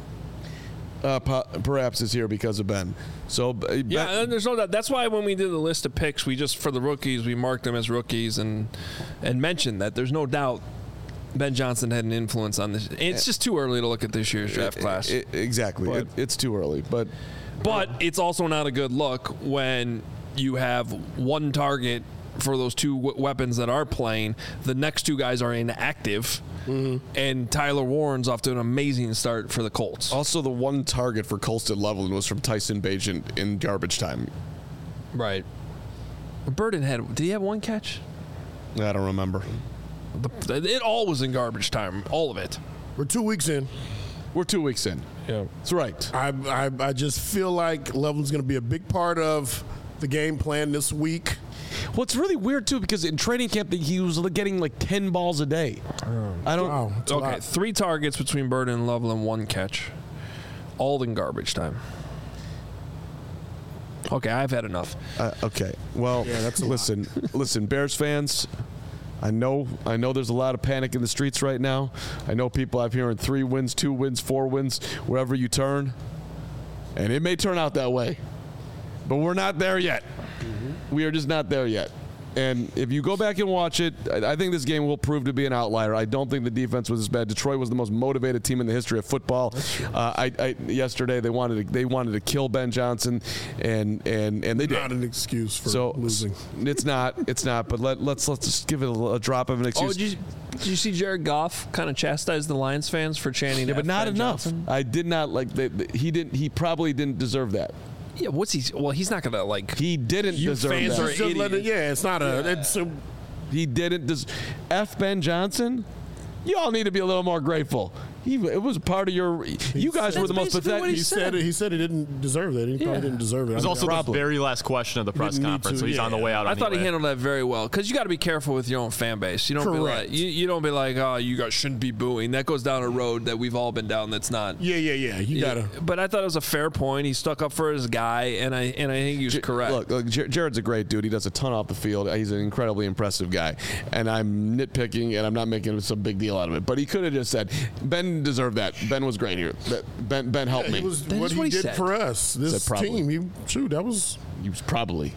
perhaps is here because of Ben. So yeah, and there's no doubt. That's why when we did the list of picks, we just, for the rookies, we marked them as rookies and mentioned that there's no doubt Ben Johnson had an influence on this. It's just too early to look at this year's draft class. Exactly. It's too early. But it's also not a good look when you have one target for those two weapons that are playing. The next two guys are inactive, and Tyler Warren's off to an amazing start for the Colts. Also, the one target for Colston Loveland was from Tyson Bagent in garbage time. Right. Burden did he have one catch? I don't remember. It all was in garbage time, all of it. We're 2 weeks in. We're 2 weeks in. Yeah. That's right. I just feel like Loveland's going to be a big part of the game plan this week. Well, it's really weird, too, because in training camp, he was getting like 10 balls a day. I don't. Wow. It's a Okay, lot. 3 targets between Burden and Loveland, 1 catch. All in garbage time. Okay, I've had enough. Okay. Well, that's a listen, Bears fans. I know there's a lot of panic in the streets right now. I know people I'm hearing 3 wins, 2 wins, 4 wins, wherever you turn. And it may turn out that way. But we're not there yet. We are just not there yet. And if you go back and watch it, I think this game will prove to be an outlier. I don't think the defense was as bad. Detroit was the most motivated team in the history of football. Yesterday they wanted to kill Ben Johnson, and they did. Not an excuse for losing. It's not. But let's just give it a drop of an excuse. Did you see Jared Goff kind of chastise the Lions fans for chanting? Yeah, but not Ben enough. Johnson? I did not like. He probably didn't deserve that. Yeah, what's he? Well, he's not gonna like. He didn't deserve fans that. are Just let it- yeah, it's not a. It's a He didn't. F. Ben Johnson. You all need to be a little more grateful. It was part of your. You guys were the most basically what pathetic. he said he didn't deserve that. He probably didn't deserve it. It was also the Probably. very last question of the press didn't need conference, to, so he's on the yeah. way out. I thought he anyway. handled that very well because you got to be careful with your own fan base. You don't be Correct. like you don't be like, oh, you guys shouldn't be booing. That goes down a road that we've all been down. That's not. Yeah. You gotta. But I thought it was a fair point. He stuck up for his guy, and I think he was correct. Look, Jared's a great dude. He does a ton off the field. He's an incredibly impressive guy. And I'm nitpicking, and I'm not making some big deal out of it. But he could have just said, Ben deserved that. Ben was great here. Ben helped me. It was That what is he what he did said. for us. This Said probably. team. That was. He was probably.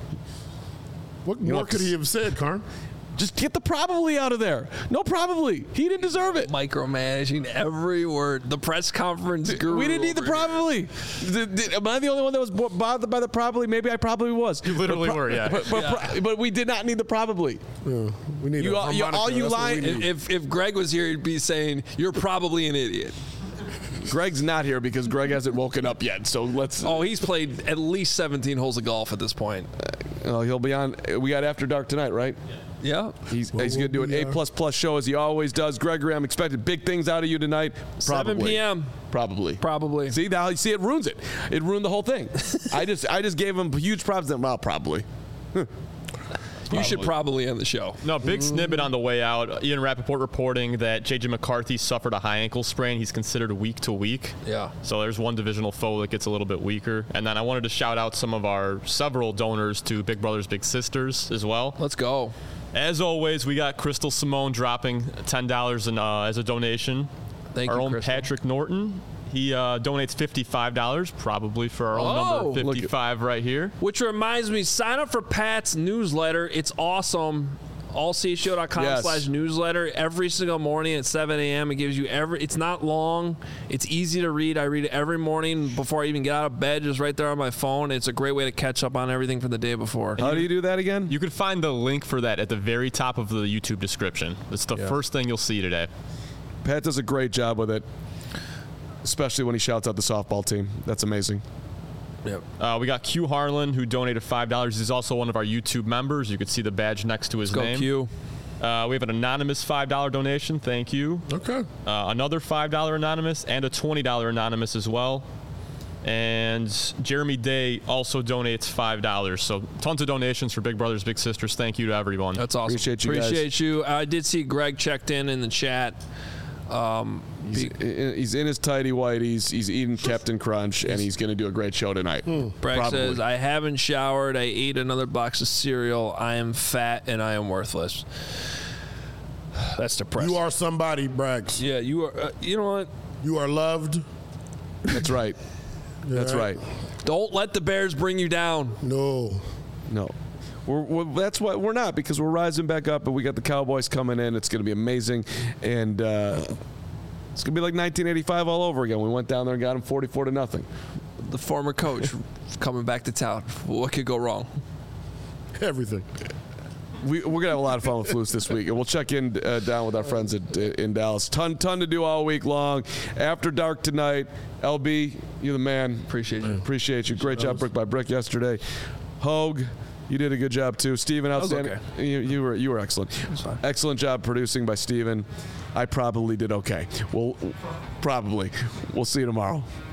What know, more could he have said, Karn? Just get the probably out of there. No, probably. He didn't deserve it. Micromanaging every word. The press conference guru. We didn't need the over here. probably. Am I the only one that was bothered by the probably? Maybe I probably was. You literally were, yeah. But we did not need the probably. Yeah, we need You a all- harmonica. all you That's what we lying- need. If Greg was here, he'd be saying, "You're probably an idiot." Greg's not here because Greg hasn't woken up yet. So let's. Oh, he's played at least 17 holes of golf at this point. He'll be on. We got After Dark tonight, right? Yeah. He's going to do an A++ show as he always does. Gregory, I'm expecting big things out of you tonight. 7 p.m. Probably. Probably. See now, you see it ruins it. It ruined the whole thing. I just gave him huge props. Well, probably. You should probably end the show. No, big snippet on the way out. Ian Rappaport reporting that J.J. McCarthy suffered a high ankle sprain. He's considered week to week. Yeah. So there's one divisional foe that gets a little bit weaker. And then I wanted to shout out some of our several donors to Big Brothers Big Sisters as well. Let's go. As always, we got Crystal Simone dropping $10 as a donation. Thank our you, own Crystal. Patrick Norton. He donates $55, probably for our own Oh. number 55 right here. Which reminds me, sign up for Pat's newsletter. It's awesome. allcshow.com/newsletter. Every single morning at 7 a.m. It gives you it's not long. It's easy to read. I read it every morning before I even get out of bed, just right there on my phone. It's a great way to catch up on everything from the day before. How do you do that again? You could find the link for that at the very top of the YouTube description. It's the first thing you'll see today. Pat does a great job with it, especially when he shouts out the softball team. That's amazing. Yep. We got Q Harlan, who donated $5. He's also one of our YouTube members. You could see the badge next to his Go name. Q. We have an anonymous $5 donation. Thank you. Okay. Another $5 anonymous and a $20 anonymous as well. And Jeremy Day also donates $5. So tons of donations for Big Brothers Big Sisters. Thank you to everyone. That's awesome. Appreciate you guys. Appreciate you. I did see Greg checked in the chat. He's in his tidy whities. He's eating Captain Crunch, and he's going to do a great show tonight. Bragg Probably. says, I haven't showered. I ate another box of cereal. I am fat and I am worthless. That's depressing. You are somebody, Braggs. Yeah, you are. You know what? You are loved. That's right. That's right. Don't let the Bears bring you down. No. No. That's what we're not, because we're rising back up, and we got the Cowboys coming in. It's going to be amazing, and it's going to be like 1985 all over again. We went down there and got them 44-0. The former coach coming back to town. What could go wrong? Everything. we're gonna have a lot of fun with Flus this week, and we'll check in down with our friends in Dallas. Ton to do all week long. After dark tonight, LB, you're the man. Appreciate you. Great job, brick by brick yesterday. Hogue, you did a good job too. Steven, outstanding. Okay. You were excellent. Excellent job producing by Steven. I probably did okay. We'll see you tomorrow.